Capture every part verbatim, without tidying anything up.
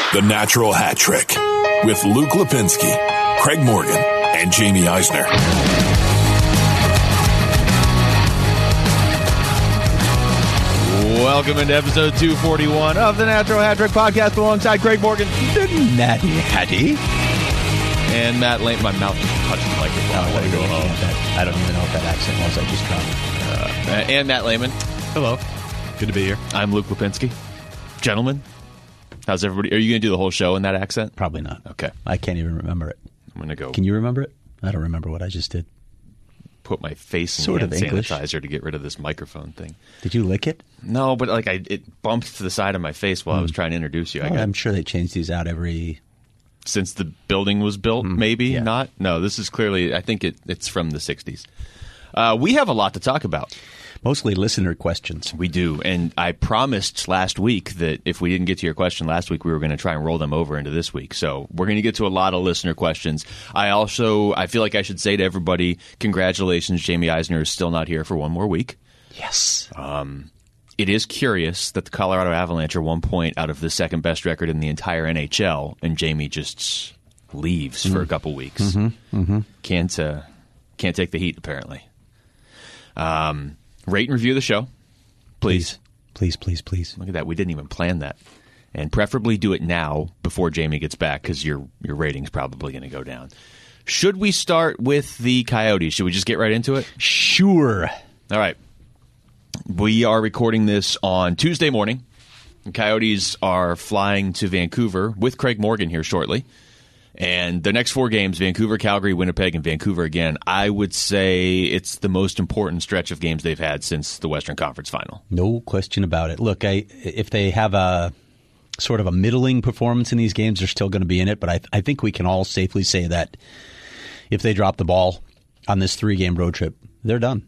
The Natural Hat Trick with Luke Lipinski, Craig Morgan, and Jamie Eisner. Welcome into episode two forty-one of the Natural Hat Trick podcast alongside Craig Morgan, the Natty Hattie, and Matt Lane. My mouth just touched the microphone. Oh, I, I, go home. that. I don't even know what that accent was. I just dropped it. Uh, and Matt Lehman. Hello. Good to be here. I'm Luke Lipinski. Gentlemen, how's everybody? Are you going to do the whole show in that accent? Probably not. Okay. I can't even remember it. I'm going to go. Can you remember it? I don't remember what I just did. Put my face in Sort hand of English. sanitizer to get rid of this microphone thing. Did you lick it? No, but like I, it bumped to the side of my face while I was trying to introduce you. I Well, got I'm sure they change these out every... since the building was built, maybe yeah. not. No, this is clearly. I think it, it's from the sixties. Uh, we have a lot to talk about. Mostly listener questions. We do, and I promised last week that if we didn't get to your question last week, we were going to try and roll them over into this week. So we're going to get to a lot of listener questions. I also, I feel like I should say to everybody, congratulations, Jamie Eisner is still not here for one more week. Yes. Um, it is curious that the Colorado Avalanche are one point out of the second best record in the entire N H L, and Jamie just leaves mm. for a couple weeks. Mm-hmm. Mm-hmm. Can't uh, can't take the heat, apparently. Um. Rate and review the show, please. Please, please, please. Look at that. We didn't even plan that. And preferably do it now before Jamie gets back because your your rating's probably going to go down. Should we start with the Coyotes? Should we just get right into it? Sure. All right. We are recording this on Tuesday morning. The Coyotes are flying to Vancouver with Craig Morgan here shortly. And the next four games, Vancouver, Calgary, Winnipeg, and Vancouver again, I would say it's the most important stretch of games they've had since the Western Conference Final. No question about it. Look, I, if they have a sort of a middling performance in these games, they're still going to be in it. But I, I think we can all safely say that if they drop the ball on this three-game road trip, they're done.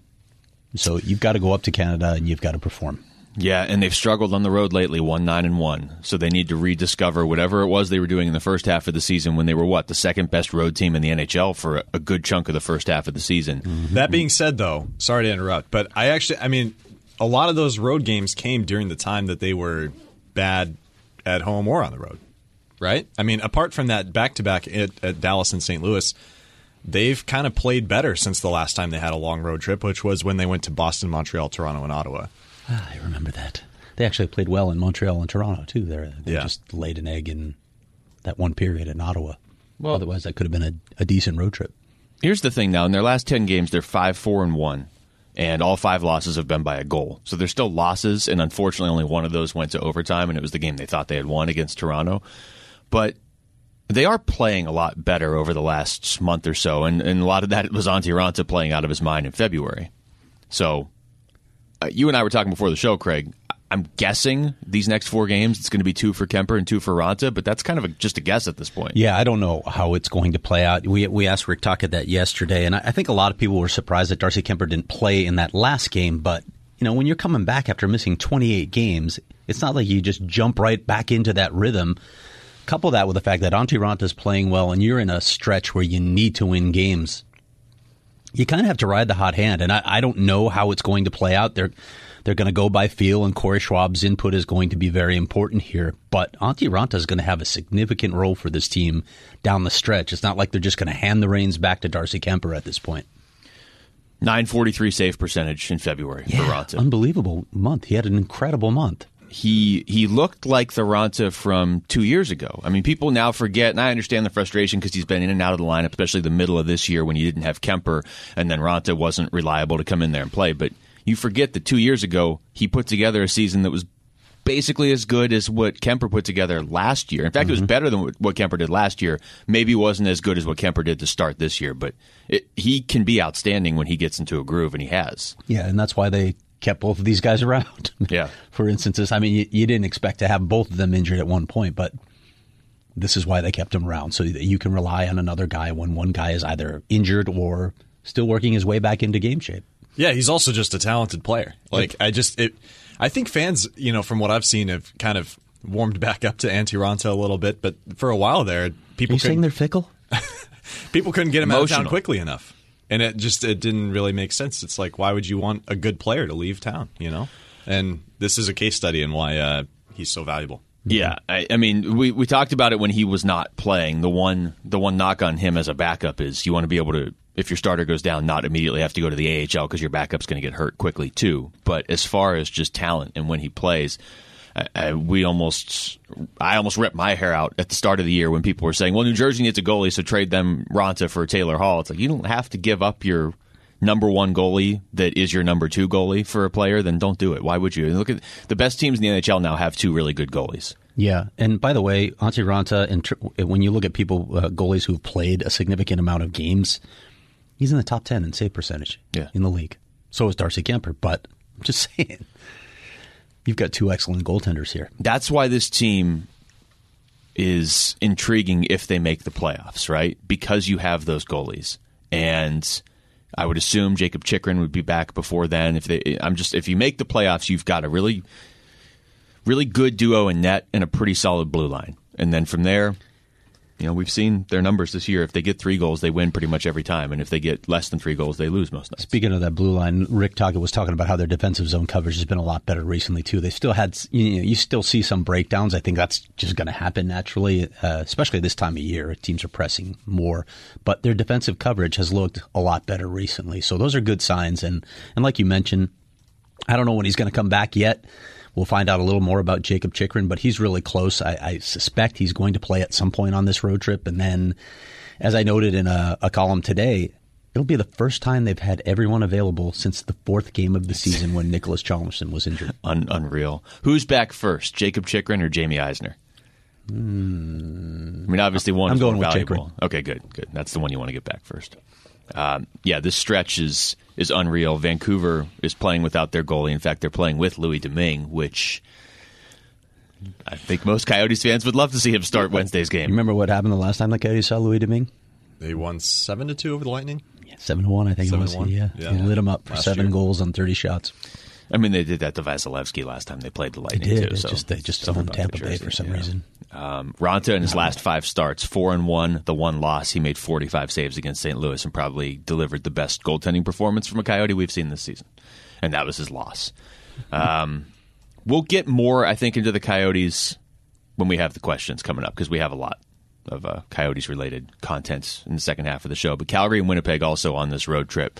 So you've got to go up to Canada and you've got to perform. Yeah, and they've struggled on the road lately, one nine and one. So they need to rediscover whatever it was they were doing in the first half of the season when they were, what, the second best road team in the N H L for a, a good chunk of the first half of the season. Mm-hmm. That being said, though, sorry to interrupt, but I actually, I mean, a lot of those road games came during the time that they were bad at home or on the road, right? I mean, apart from that back-to-back at, at Dallas and Saint Louis, they've kind of played better since the last time they had a long road trip, which was when they went to Boston, Montreal, Toronto, and Ottawa. Ah, I remember that. They actually played well in Montreal and Toronto, too. They're, they yeah. just laid an egg in that one period in Ottawa. Well, otherwise, that could have been a, a decent road trip. Here's the thing now. In their last ten games, they're five four and one, and all five losses have been by a goal. So they're still losses, and unfortunately only one of those went to overtime, and it was the game they thought they had won against Toronto. But they are playing a lot better over the last month or so, and, and a lot of that was Antti Raanta playing out of his mind in February. So uh, you and I were talking before the show, Craig. I'm guessing these next four games, it's going to be two for Kemper and two for Raanta, but that's kind of a, just a guess at this point. Yeah, I don't know how it's going to play out. We we asked Rick Tocchet that yesterday, and I, I think a lot of people were surprised that Darcy Kemper didn't play in that last game. But you know, when you're coming back after missing twenty-eight games, it's not like you just jump right back into that rhythm. Couple that with the fact that Antti Raanta is playing well, and you're in a stretch where you need to win games. You kind of have to ride the hot hand, and I, I don't know how it's going to play out. They're They're going to go by feel, and Corey Schwab's input is going to be very important here. But Antti Raanta is going to have a significant role for this team down the stretch. It's not like they're just going to hand the reins back to Darcy Kemper at this point. nine forty-three save percentage in February yeah, for Raanta. Unbelievable month. He had an incredible month. He he looked like the Raanta from two years ago. I mean, people now forget, and I understand the frustration because he's been in and out of the lineup, especially the middle of this year when you didn't have Kemper, and then Raanta wasn't reliable to come in there and play. But you forget that two years ago, he put together a season that was basically as good as what Kemper put together last year. In fact, mm-hmm. it was better than what Kemper did last year. Maybe it wasn't as good as what Kemper did to start this year, but it, he can be outstanding when he gets into a groove, and he has. Yeah, and that's why they kept both of these guys around. Yeah. For instances, I mean, you, you didn't expect to have both of them injured at one point, but this is why they kept them around, so that you can rely on another guy when one guy is either injured or still working his way back into game shape. Yeah, he's also just a talented player. Like, I just, it, I think fans, you know, from what I've seen, have kind of warmed back up to Antti Raanta a little bit, but for a while there, people Are you saying they're fickle? people couldn't get him out of town Emotional. quickly enough. And it just it didn't really make sense. It's like, why would you want a good player to leave town, you know? And this is a case study in why uh, he's so valuable. Yeah, I, I mean, we, we talked about it when he was not playing. The one the one knock on him as a backup is you want to be able to, if your starter goes down, not immediately have to go to the A H L because your backup's going to get hurt quickly too. But as far as just talent and when he plays, I, I, we almost I almost ripped my hair out at the start of the year when people were saying, well, New Jersey needs a goalie, so trade them Raanta for Taylor Hall. It's like, you don't have to give up your number one goalie that is your number two goalie for a player, then don't do it. Why would you? Look at the best teams in the N H L now have two really good goalies. Yeah, and by the way, Antti Raanta, and tr- when you look at people, uh, goalies who've played a significant amount of games, he's in the top ten in save percentage yeah. in the league. So is Darcy Kemper, but I'm just saying, you've got two excellent goaltenders here. That's why this team is intriguing if they make the playoffs, right? Because you have those goalies. And I would assume Jacob Chychrun would be back before then. If they, I'm just if you make the playoffs, you've got a really, really good duo in net and a pretty solid blue line. And then from there, you know, we've seen their numbers this year. If they get three goals, they win pretty much every time. And if they get less than three goals, they lose most nights. Speaking of that blue line, Rick Tocchet was talking about how their defensive zone coverage has been a lot better recently, too. They still had, you know, you still see some breakdowns. I think that's just going to happen naturally, uh, especially this time of year. Teams are pressing more. But their defensive coverage has looked a lot better recently. So those are good signs. And, and like you mentioned, I don't know when he's going to come back yet. We'll find out a little more about Jacob Chychrun, but he's really close. I, I suspect he's going to play at some point on this road trip. And then, as I noted in a, a column today, it'll be the first time they've had everyone available since the fourth game of the season when Nicholas Chalmerson was injured. Un- unreal. Who's back first, Jacob Chychrun or Jamie Eisner? Mm, I mean, obviously one I'm is going more with valuable. Chychrun. Okay, good, good. That's the one you want to get back first. Um, yeah, this stretch is is unreal. Vancouver is playing without their goalie. In fact, they're playing with Louis Domingue, which I think most Coyotes fans would love to see him start Wednesday's game. You remember what happened the last time the Coyotes saw Louis Domingue? They won seven to two over the Lightning. Yeah, seven to one, I think seven it was. to one? Yeah, Yeah. He lit him up for Last seven year. goals on thirty shots. I mean, they did that to Vasilevsky last time they played the They Lightning did. too. It So just, they just stuff owned about Tampa the Bay jersey, for some yeah. reason. Um, Raanta in his last five starts, four and one. The one loss, he made forty-five saves against Saint Louis and probably delivered the best goaltending performance from a Coyote we've seen this season, and that was his loss. Um, we'll get more, I think, into the Coyotes when we have the questions coming up because we have a lot of uh, Coyotes-related content in the second half of the show. But Calgary and Winnipeg also on this road trip.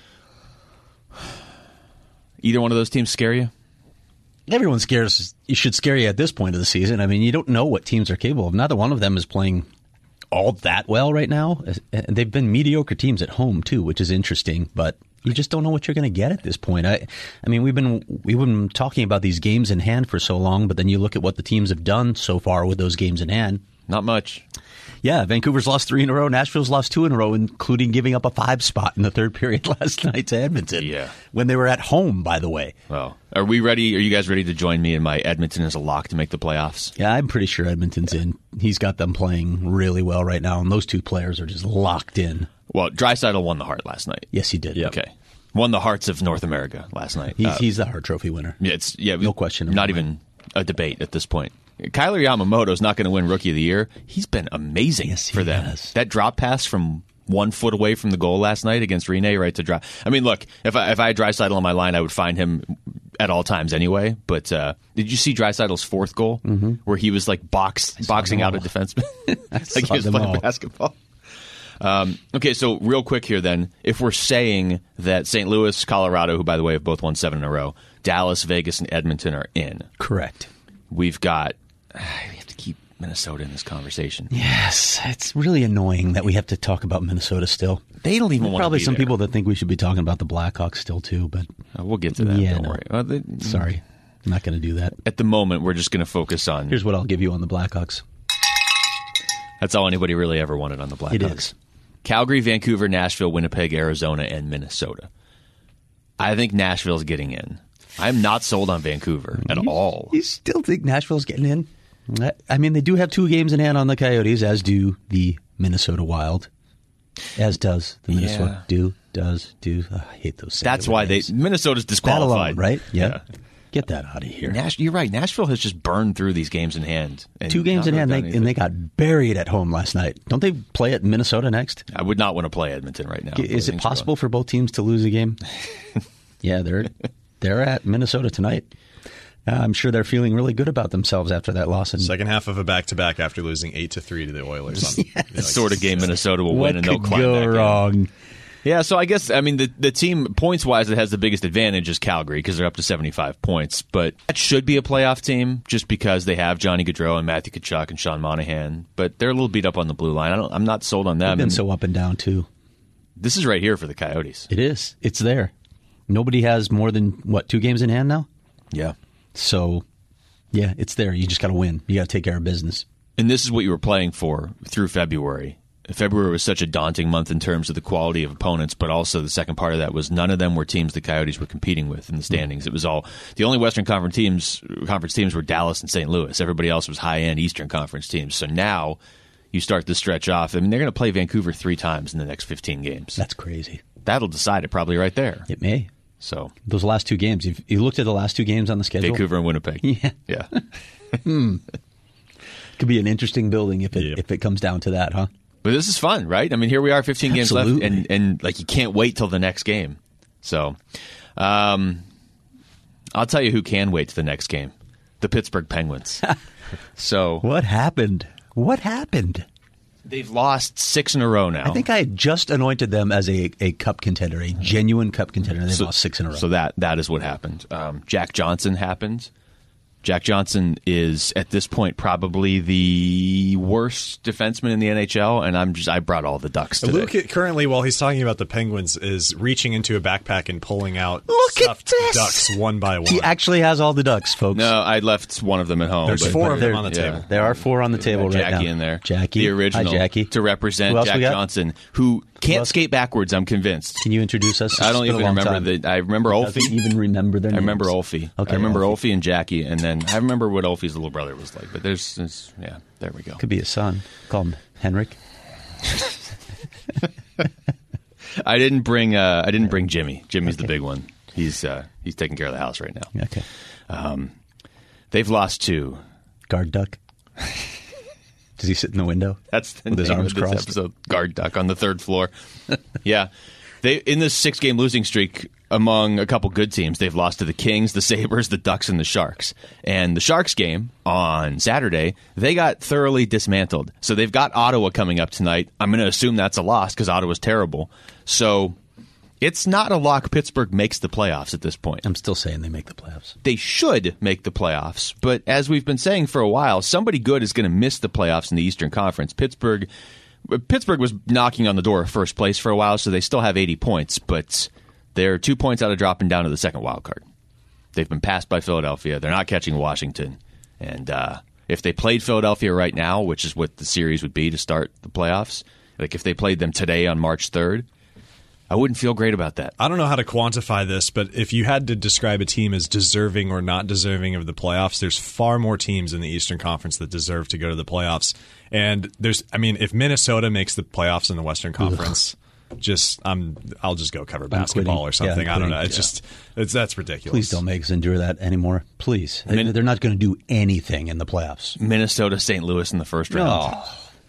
Either one of those teams scare you? Everyone scares. You should scare you at this point of the season. I mean, you don't know what teams are capable of. Neither one of them is playing all that well right now. And they've been mediocre teams at home too, which is interesting. But you just don't know what you're going to get at this point. I, I mean, we've been we've been talking about these games in hand for so long, but then you look at what the teams have done so far with those games in hand. Not much. Yeah, Vancouver's lost three in a row. Nashville's lost two in a row, including giving up a five spot in the third period last night to Edmonton. Yeah. When they were at home, by the way. Well, are we ready? Are you guys ready to join me in my Edmonton as a lock to make the playoffs? Yeah, I'm pretty sure Edmonton's in. He's got them playing really well right now, and those two players are just locked in. Well, Draisaitl won the Hart last night. Yes, he did. Okay. Won the hearts of North America last night. He's, Uh, he's the Hart Trophy winner. Yeah, it's yeah, No question Not about even a debate at this point. Kyler Yamamoto's not going to win Rookie of the Year. He's been amazing Yes, he for them. has. That drop pass from one foot away from the goal last night against Rene, right to drop. I mean, look, if I if I had Draisaitl on my line, I would find him at all times anyway. But uh, did you see Draisaitl's fourth goal mm-hmm. where he was like box boxing out a defenseman, like he was them playing all. basketball? Um, okay, so real quick here then, if we're saying that Saint Louis, Colorado, who by the way have both won seven in a row, Dallas, Vegas, and Edmonton are in, Correct. we've got. We have to keep Minnesota in this conversation. Yes, it's really annoying that we have to talk about Minnesota still. They don't even There are want probably to be some there. people that think we should be talking about the Blackhawks still too, but Uh, we'll get to that. Yeah, don't no. worry. Uh, they- sorry, I'm not going to do that. At the moment, we're just going to focus on. Here's what I'll give you on the Blackhawks. That's all anybody really ever wanted on the Blackhawks. It is. Calgary, Vancouver, Nashville, Winnipeg, Arizona, and Minnesota. I think Nashville's getting in. I'm not sold on Vancouver at You- all. You still think Nashville's getting in? I- I mean, they do have two games in hand on the Coyotes, as do the Minnesota Wild, as does the Minnesota Yeah. do does do. Oh, I hate those. That's singular why they names. Minnesota's That disqualified, alone, right? Yeah. Get that out of here. Nash, you're right. Nashville has just burned through these games in hand. And Two games not in really hand, done they, anything. and they got buried at home last night. Don't they play at Minnesota next? I would not want to play Edmonton right now. Is it possible for both teams to lose a game? Yeah, they're they're at Minnesota tonight. I'm sure they're feeling really good about themselves after that loss. And second half of a back-to-back after losing eight to three to the Oilers. On, yes. you know, The sort of game Minnesota will what win, and they'll could climb go back in. wrong? Yeah, so I guess, I mean, the, the team, points-wise, that has the biggest advantage is Calgary because they're up to seventy-five points. But that should be a playoff team just because they have Johnny Gaudreau and Matthew Tkachuk and Sean Monahan. But they're a little beat up on the blue line. I don't, I'm not sold on them. They've been And so up and down, too. this is right here for the Coyotes. It is. It's there. Nobody has more than, what, two games in hand now? Yeah. So, yeah, it's there. You just got to win. You got to take care of business. And this is what you were playing for through February. February was such a daunting month in terms of the quality of opponents, but also the second part of that was none of them were teams the Coyotes were competing with in the standings. It was all the only Western Conference teams. Conference teams were Dallas and Saint Louis. Everybody else was high-end Eastern Conference teams. So now you start to stretch off. I mean, they're going to play Vancouver three times in the next fifteen games. That's crazy. That'll decide it probably right there. It may. So Those last two games. If you looked at the last two games on the schedule. Vancouver and Winnipeg. Yeah. Yeah. Could be an interesting building if it Yep. if it comes down to that, huh? But this is fun, right? I mean, here we are, fifteen games left, Absolutely. and, and like you can't wait till the next game. So, um, I'll tell you who can wait to the next game: the Pittsburgh Penguins. So What happened? What happened? they've lost six in a row now. I think I had just anointed them as a, a cup contender, a genuine cup contender. They lost six in a row. So that that is what happened. Um, Jack Johnson happened. Jack Johnson is at this point probably the worst defenseman in the N H L, and I'm just I brought all the Ducks today. Luke currently, while he's talking about the Penguins, is reaching into a backpack and pulling out Look at stuffed this! ducks one by one. He actually has all the ducks, folks. No, I left one of them at home. There's but- four but of them there- on the yeah. table. There are four on the table right now. Jackie in there. Jackie. The original. Hi, Jackie. To represent Who else Jack we got? Johnson, who can't else? skate backwards, I'm convinced. Can you introduce us? I don't It's been even a long remember time. the. I remember Doesn't Olfie. even remember their I names. remember Olfie. Okay, I remember Olfie. Olfie and Jackie, and then I remember what Olfie's little brother was like. But there's, there's yeah, there we go. Could be his son. Call him Henrik. I didn't bring. Uh, I didn't bring Jimmy. Jimmy's the big one. He's uh, he's taking care of the house right now. Okay. They've lost two. Guard duck. Does he sit in the window? That's the With his name arms of this crossed? episode. Guard duck on the third floor. Yeah, they in this six game losing streak among a couple good teams. They've lost to the Kings, the Sabres, the Ducks, and the Sharks. And the Sharks game on Saturday, they got thoroughly dismantled. So they've got Ottawa coming up tonight. I'm going to assume that's a loss because Ottawa's terrible. So it's not a lock. Pittsburgh makes the playoffs at this point. I'm still saying they make the playoffs. They should make the playoffs, but as we've been saying for a while, somebody good is going to miss the playoffs in the Eastern Conference. Pittsburgh Pittsburgh was knocking on the door of first place for a while, so they still have eighty points, but they're two points out of dropping down to the second wild card. They've been passed by Philadelphia. They're not catching Washington. And uh, if they played Philadelphia right now, which is what the series would be to start the playoffs, like if they played them today on March third, I wouldn't feel great about that. I don't know how to quantify this, but if you had to describe a team as deserving or not deserving of the playoffs, there's far more teams in the Eastern Conference that deserve to go to the playoffs. And there's, I mean, if Minnesota makes the playoffs in the Western Conference, just I'm, I'll just go cover basketball or quitting. something. Yeah, I don't quitting. know. It's Yeah. just, it's that's ridiculous. Please don't make us endure that anymore. Please. Min- They're not going to do anything in the playoffs. Minnesota, Saint Louis in the first round.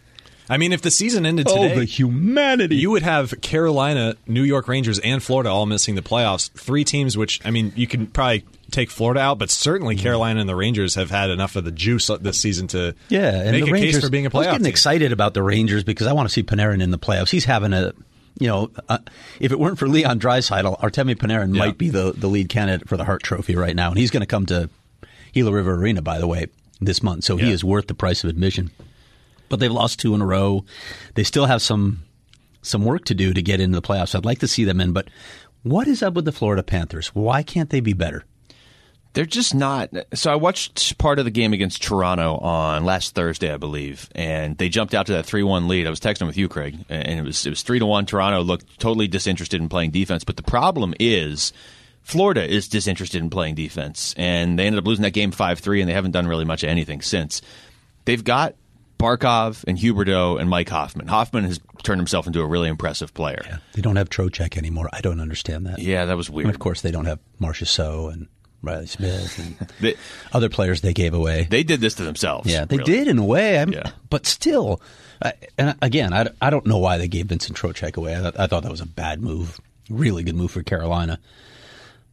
I mean, if the season ended Oh, today, the humanity. you would have Carolina, New York Rangers, and Florida all missing the playoffs. Three teams, which, I mean, you can probably take Florida out, but certainly Carolina and the Rangers have had enough of the juice this season to Yeah, and make the a Rangers, case for being a I was playoff getting team. excited about the Rangers because I want to see Panarin in the playoffs. He's having a, you know, uh, if it weren't for Leon Draisaitl, Artemi Panarin Yeah. might be the, the lead candidate for the Hart Trophy right now. And he's going to come to Gila River Arena, by the way, this month. So he Yeah. is worth the price of admission. But they've lost two in a row. They still have some some work to do to get into the playoffs. I'd like to see them in. But what is up with the Florida Panthers? Why can't they be better? They're just not. So I watched part of the game against Toronto on last Thursday, I believe, and they jumped out to that three one lead. I was texting with you, Craig, and it was it was three to one. Toronto looked totally disinterested in playing defense, but the problem is Florida is disinterested in playing defense, and they ended up losing that game five three, and they haven't done really much of anything since. They've got Barkov and Huberdeau and Mike Hoffman. Hoffman has turned himself into a really impressive player. Yeah, they don't have Trocheck anymore. I don't understand that. Yeah, that was weird. And of course, they don't have Marcia So and Riley Smith and They, other players they gave away. they did this to themselves. yeah, they really. did in a way. I'm, Yeah. But still, I, and again, I, I don't know why they gave Vincent Trocheck away. I, thought- I thought that was a bad move. Really good move for Carolina.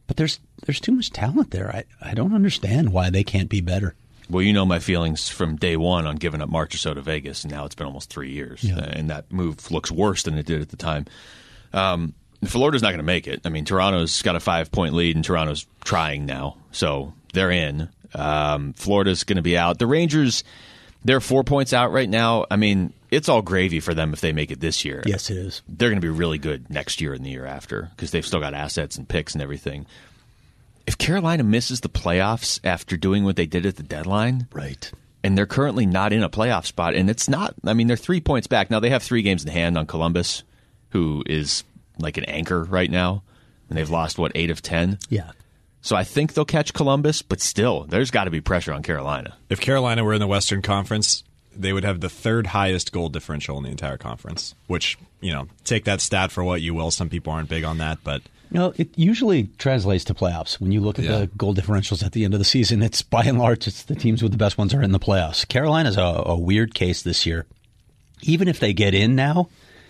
But there's there's too much talent there. I, I don't understand why they can't be better. Well, you know my feelings from day one on giving up Marchessault to Vegas, and now it's been almost three years. Yeah. And that move looks worse than it did at the time. Um, Florida's not going to make it. I mean, Toronto's got a five-point lead, and Toronto's trying now, so they're in. Um, Florida's going to be out. The Rangers, they're four points out right now. I mean, it's all gravy for them if they make it this year. Yes, it is. They're going to be really good next year and the year after because they've still got assets and picks and everything. If Carolina misses the playoffs after doing what they did at the deadline, right, and they're currently not in a playoff spot, and it's not, I mean, they're three points back. Now, they have three games in hand on Columbus, who is like an anchor right now, and they've lost, what, eight of ten? Yeah. So I think they'll catch Columbus, but still, there's got to be pressure on Carolina. If Carolina were in the Western Conference, they would have the third highest goal differential in the entire conference, which, you know, take that stat for what you will. Some people aren't big on that, but... You know, it usually translates to playoffs. When you look at Yeah. the goal differentials at the end of the season, it's by and large, it's the teams with the best ones are in the playoffs. Carolina's a, a weird case this year. Even if they get in now,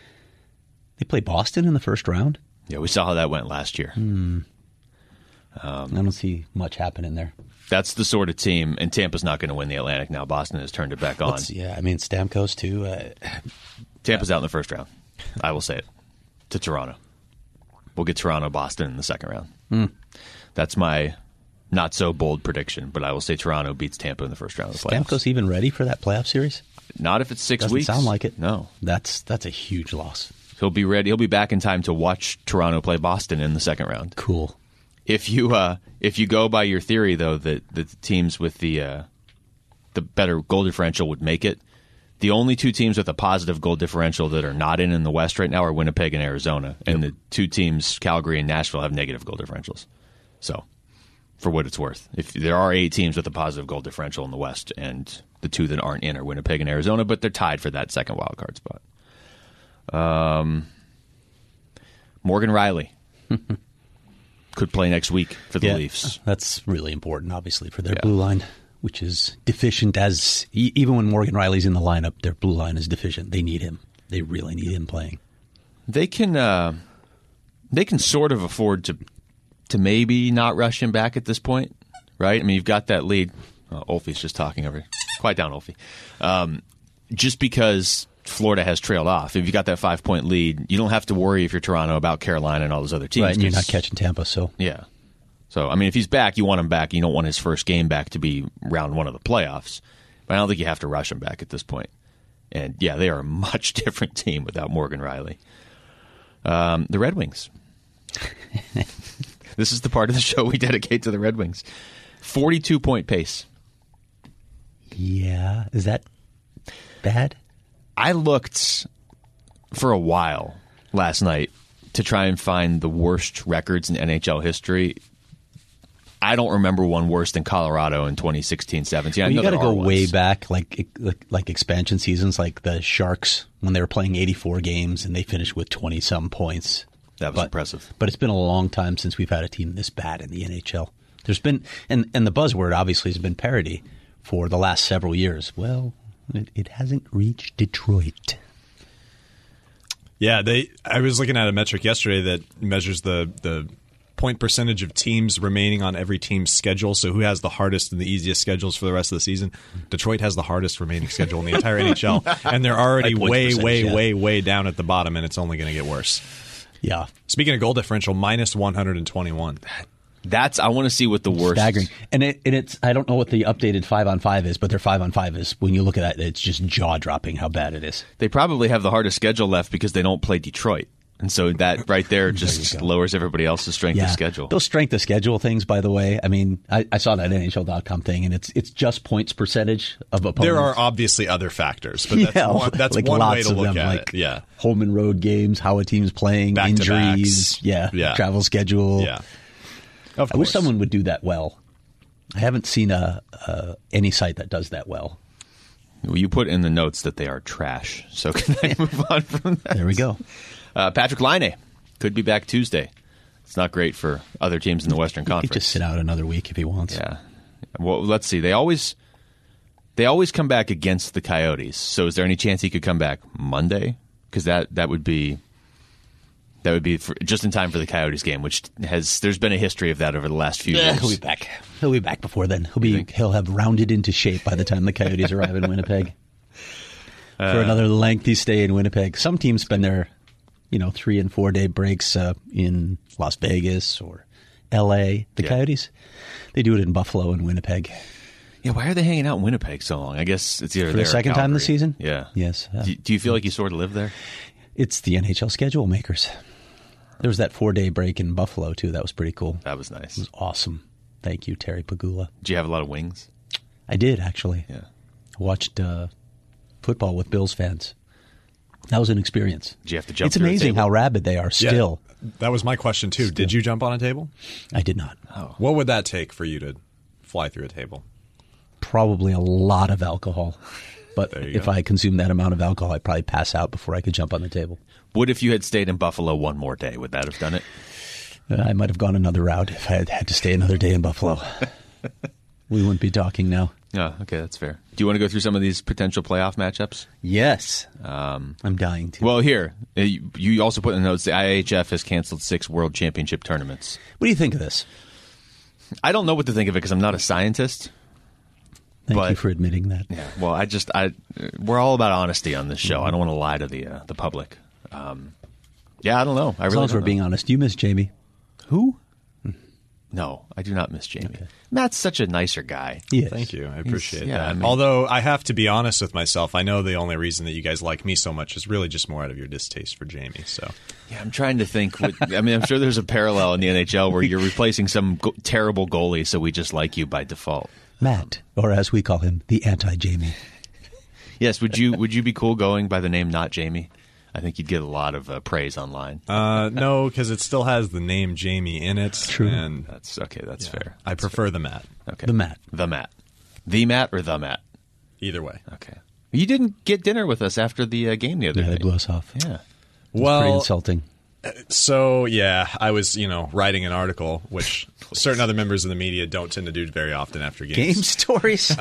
they play Boston in the first round. Yeah, we saw how that went last year. Hmm. Um, I don't see much happening there. That's the sort of team, and Tampa's not going to win the Atlantic now. Boston has turned it back on. Let's, yeah, I mean, Stamkos, too. Uh, Tampa's out in the first round. I will say it. To Toronto. We'll get Toronto, Boston in the second round. Mm. That's my not so bold prediction, but I will say Toronto beats Tampa in the first round of the playoffs. Stamkos even ready for that playoff series? Not if it's six Doesn't weeks. sound like it. No. That's that's a huge loss. He'll be ready. He'll be back in time to watch Toronto play Boston in the second round. Cool. If you uh, if you go by your theory, though, that, that the teams with the uh, the better goal differential would make it, the only two teams with a positive goal differential that are not in in the West right now are Winnipeg and Arizona. And yep. the two teams, Calgary and Nashville, have negative goal differentials. So, for what it's worth, if there are eight teams with a positive goal differential in the West, and the two that aren't in are Winnipeg and Arizona, but they're tied for that second wild card spot. Um, Morgan Riley could play next week for the yeah, Leafs. That's really important, obviously, for their yeah. blue line, which is deficient as even when Morgan Riley's in the lineup, their blue line is deficient. They need him. They really need him playing. They can uh, they can sort of afford to to maybe not rush him back at this point, right? I mean, you've got that lead. Oh, Olfie's just talking over. Quiet down, Olfie. Um, just because Florida has trailed off. If you got that five point lead, you don't have to worry if you're Toronto about Carolina and all those other teams. Right, and you're not catching Tampa, so yeah. So I mean, if he's back, you want him back. You don't want his first game back to be round one of the playoffs. But I don't think you have to rush him back at this point. And yeah, they are a much different team without Morgan Riley. Um, the Red Wings. This is the part of the show we dedicate to the Red Wings. forty-two point pace. Yeah, is that bad? I looked for a while last night to try and find the worst records in N H L history. I don't remember one worse than Colorado in twenty sixteen seventeen. Well, I know you got to there go are way ones. back, like, like like expansion seasons, like the Sharks when they were playing eighty-four games and they finished with twenty some points. That was but, impressive. But it's been a long time since we've had a team this bad in the N H L. There's been, and and the buzzword obviously has been parity for the last several years. Well, it, it hasn't reached Detroit. Yeah, they. I was looking at a metric yesterday that measures the the point percentage of teams remaining on every team's schedule. So who has the hardest and the easiest schedules for the rest of the season? Detroit has the hardest remaining schedule in the entire N H L, and they're already Like way, way, yeah. way, way down at the bottom, and it's only going to get worse. Yeah. Speaking of goal differential, minus one hundred twenty-one. That's I want to see what the worst. Staggering. And, it, and it's, I don't know what the updated five on five is, but their five on five is, when you look at that, it's just jaw dropping how bad it is. They probably have the hardest schedule left because they don't play Detroit. And so that right there just there lowers everybody else's strength Yeah. of schedule. Those strength of schedule things, by the way, I mean, I, I saw that N H L dot com thing, and it's it's just points percentage of opponents. There are obviously other factors, but that's yeah, one, that's like one lots way to of look them, at like it. Yeah. home and road games, how a team's playing, Back-to-backs. injuries, yeah, Yeah. travel schedule. Yeah. Of I wish course. someone would do that well. I haven't seen a, a any site that does that well. Well, you put in the notes that they are trash. So can I move on from that? There we go. Uh, Patrick Laine could be back Tuesday. It's not great for other teams in the Western He Conference. could just sit out another week if he wants. Yeah. Well, let's see. They always they always come back against the Coyotes. So is there any chance he could come back Monday? Because that, that would be That would be for, just in time for the Coyotes game, which has there's been a history of that over the last few Yeah, years. he'll be back. He'll be back before then. He'll be he'll have rounded into shape by the time the Coyotes arrive in Winnipeg for Uh, another lengthy stay in Winnipeg. Some teams spend their, you know, three and four day breaks uh, in Las Vegas or L A. The Yeah. Coyotes, they do it in Buffalo and Winnipeg. Yeah, why are they hanging out in Winnipeg so long? I guess it's either For there the or second time this Calgary. season? Yeah. Yes. Uh, Do, do you feel like you sort of live there? It's the N H L schedule makers. There was that four day break in Buffalo too. That was pretty cool. That was nice. It was awesome. Thank you, Terry Pagula. Do you have a lot of wings? I did actually. Yeah. I watched uh, football with Bills fans. That was an experience. Did you have to jump It's through a amazing table? how rabid they are Yeah, still. that was my question too. Did you jump on a table? I did not. What would that take for you to fly through a table? Probably a lot of alcohol. But There you if go. I consumed that amount of alcohol, I'd probably pass out before I could jump on the table. What if you had stayed in Buffalo one more day? Would that have done it? Uh, I might have gone another route if I had had to stay another day in Buffalo. We wouldn't be talking now. Oh, okay, that's fair. Do you want to go through some of these potential playoff matchups? Yes. Um, I'm dying to. Well, here, uh, you you also put in the notes the I H F has canceled six World Championship tournaments. What do you think of this? I don't know what to think of it because I'm not a scientist. Thank But- you for admitting that. Yeah. Well, I just I we're all about honesty on this show. I don't want to lie to the uh, the public. Um, yeah, I don't know. I As really long as don't we're know. being honest, you miss Jamie. Who? No, I do not miss Jamie. Matt's such a nicer guy. Yes. Thank you. I appreciate yeah, that. I mean- Although I have to be honest with myself, I know the only reason that you guys like me so much is really just more out of your distaste for Jamie. So Yeah, I'm trying to think. What, I mean, I'm sure there's a parallel in the N H L where you're replacing some go- terrible goalie, so we just like you by default. Matt, or as we call him, the anti-Jamie. Yes, would you would you be cool going by the name Not Jamie? I think you'd get a lot of uh, praise online. uh, no, because it still has the name Jamie in it. True. And That's okay. That's yeah, fair. I prefer the Matt. Okay, The Matt. the Matt, the Matt, or the Matt. Either way. Okay. You didn't get dinner with us after the uh, game the other Yeah, day. they blew us off. Yeah. It's pretty Well, insulting. so yeah, I was you know writing an article, which certain other members of the media don't tend to do very often after games. Game stories?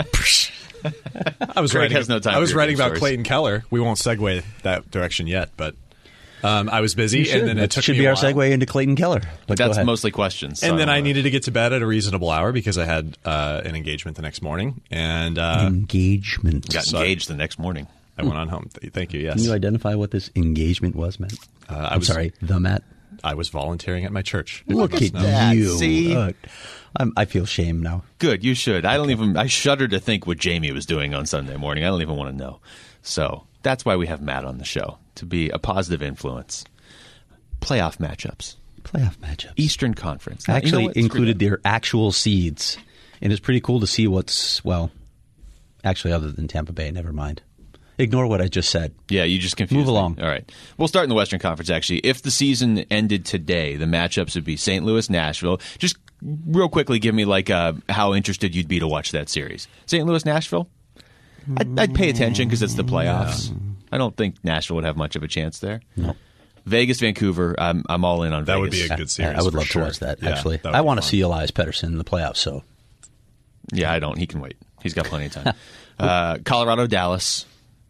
I was Greg writing. has no time I for was your writing game about stories. Clayton Keller. We won't segue that direction yet, but um, I was busy, You should. and then it That took should me be a our while. segue into Clayton Keller. But go That's ahead. mostly questions. so And then don't I wanna- needed to get to bed at a reasonable hour because I had uh, an engagement the next morning, and uh, engagement. got Sorry. engaged the next morning. I went on home. Th- Thank you. Yes, Can you identify what this engagement was, Matt? Uh, I I'm was- sorry, the Matt. I was volunteering at my church. if you Look must at know. that. you. See? Uh, I'm, I feel shame now. Good, you should. I don't even. I shudder to think what Jamie was doing on Sunday morning. I don't even want to know. So that's why we have Matt on the show, to be a positive influence. Playoff matchups, Playoff matchups. Eastern Conference. Now, you know Actually what? Screw included that. their actual seeds. And it's pretty cool to see what's, well, actually other than Tampa Bay, never mind. Ignore what I just said. Yeah, you just confused Move me. along. All right. We'll start in the Western Conference, actually. If the season ended today, the matchups would be Saint Louis, Nashville. Just real quickly, give me like uh, how interested you'd be to watch that series. Saint Louis, Nashville? I'd, I'd pay attention because it's the playoffs. I don't think Nashville would have much of a chance there. No. Vegas, Vancouver, I'm, I'm all in on That Vegas. would be a good series. I would for love sure. to watch that, Yeah, actually. that would I be want to fun. see Elias Pettersson in the playoffs, so. Yeah, I don't. He can wait. He's got plenty of time. uh, Colorado, Dallas.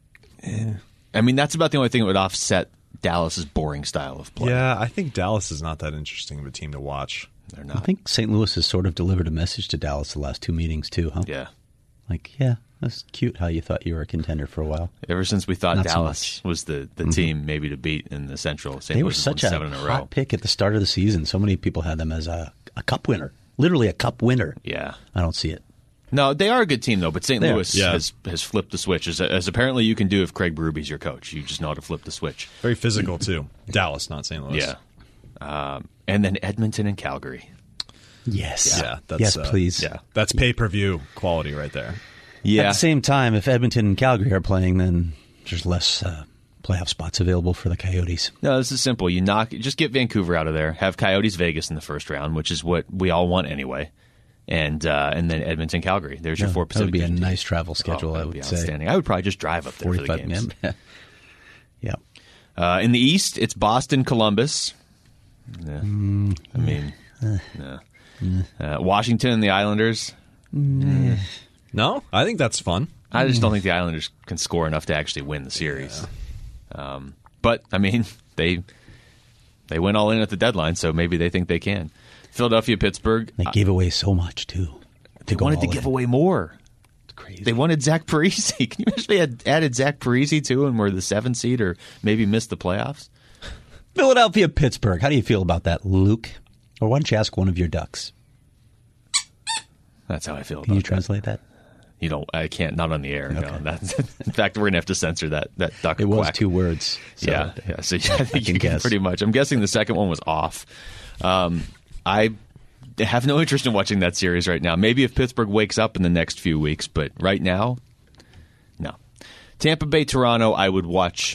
I mean, that's about the only thing that would offset Dallas's boring style of play. Yeah, I think Dallas is not that interesting of a team to watch. They're I not. think Saint Louis has sort of delivered a message to Dallas the last two meetings, too, huh? Yeah. Like, yeah, that's cute how you thought you were a contender for a while. Ever since we thought Not so Dallas was the, the team maybe to beat in the Central, Saint They were Louis won such a seven in a row. hot pick at the start of the season. So many people had them as a, a cup winner. Literally a cup winner. Yeah. I don't see it. No, they are a good team though. But Saint They are. Louis Yeah. has has flipped the switch, as, as apparently you can do if Craig Berube's your coach. You just know how to flip the switch. Very physical too. Dallas, not Saint Louis. Yeah. Um, and then Edmonton and Calgary. Yes. yeah. That's, yes, uh, please. Yeah, that's pay per view quality right there. Yeah. At the same time, if Edmonton and Calgary are playing, then there's less uh, playoff spots available for the Coyotes. No, this is simple. You knock, just get Vancouver out of there. Have Coyotes Vegas in the first round, which is what we all want anyway. And uh, and then Edmonton Calgary. There's your Yeah, four that Pacific. would be a Division nice teams. travel schedule, Oh, I that would be say. outstanding. I would probably just drive up there for the forty-five games. yeah. yeah. Uh, in the East, it's Boston, Columbus. Yeah. Mm. I mean, yeah. Uh, Washington and the Islanders. No, I think that's fun. I just don't think the Islanders can score enough to actually win the series. Um, but I mean, they They went all in at the deadline, so maybe they think they can. Philadelphia, Pittsburgh. They gave away so much, too. They wanted to give away more. It's crazy. They wanted Zach Parise. Can you imagine if they had added Zach Parise, too, and were the seventh seed or maybe missed the playoffs? Philadelphia, Pittsburgh. How do you feel about that, Luke? Or why don't you ask one of your ducks? That's how I feel about Can you that. translate that? You don't. I can't. Not on the air. Okay. No. That's, in fact, we're gonna have to censor that. That duck. It was quack. two words. So yeah. Yeah. So yeah, I think can you can guess. pretty much. I'm guessing the second one was off. Um, I have no interest in watching that series right now. Maybe if Pittsburgh wakes up in the next few weeks, but right now, no. Tampa Bay, Toronto. I would watch,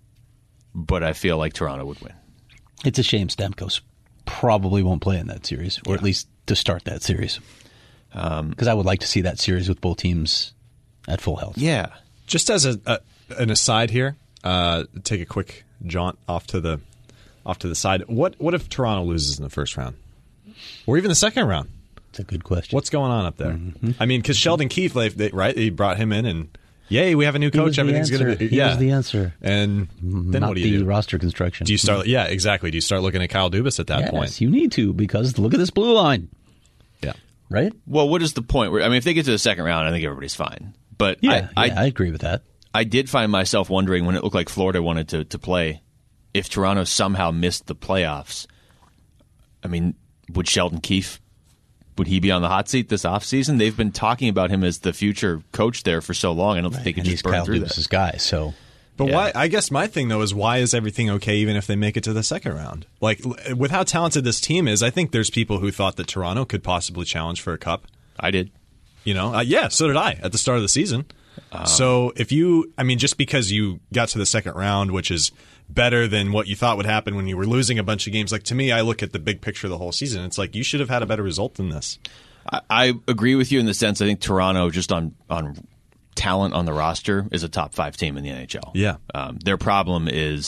but I feel like Toronto would win. It's a shame Stamkos probably won't play in that series, or yeah. at least to start that series. Because um, I would like to see that series with both teams at full health. Yeah. Just as a, a an aside here, uh, take a quick jaunt off to the off to the side. What what if Toronto loses in the first round, or even the second round? It's a good question. What's going on up there? Mm-hmm. I mean, because Sheldon Keefe, they, they, right? They brought him in, and yay, we have a new coach. Everything's going to be he yeah. was the answer. And then Not what do you the do? roster construction. Do you start? Yeah, exactly. Do you start looking at Kyle Dubas at that yes, point? You need to, because look at this blue line. Yeah. Right? Well, what is the point? Where I mean, if they get to the second round, I think everybody's fine. But yeah, I, yeah, I, I agree with that. I did find myself wondering when it looked like Florida wanted to, to play, if Toronto somehow missed the playoffs. I mean, would Sheldon Keefe, would he be on the hot seat this offseason? They've been talking about him as the future coach there for so long. I don't think they could and just he's burn Kyle through Dubas' that. guy, so... But Yeah. why? I guess my thing though is why is everything okay even if they make it to the second round? Like with how talented this team is, I think there's people who thought that Toronto could possibly challenge for a cup. I did. You know, uh, yeah, so did I at the start of the season. Um, so if you, I mean, just because you got to the second round, which is better than what you thought would happen when you were losing a bunch of games, like to me, I look at the big picture of the whole season. It's like you should have had a better result than this. I, I agree with you in the sense I think Toronto, just on, on talent on the roster, is a top five team in the N H L. Yeah. Um, their problem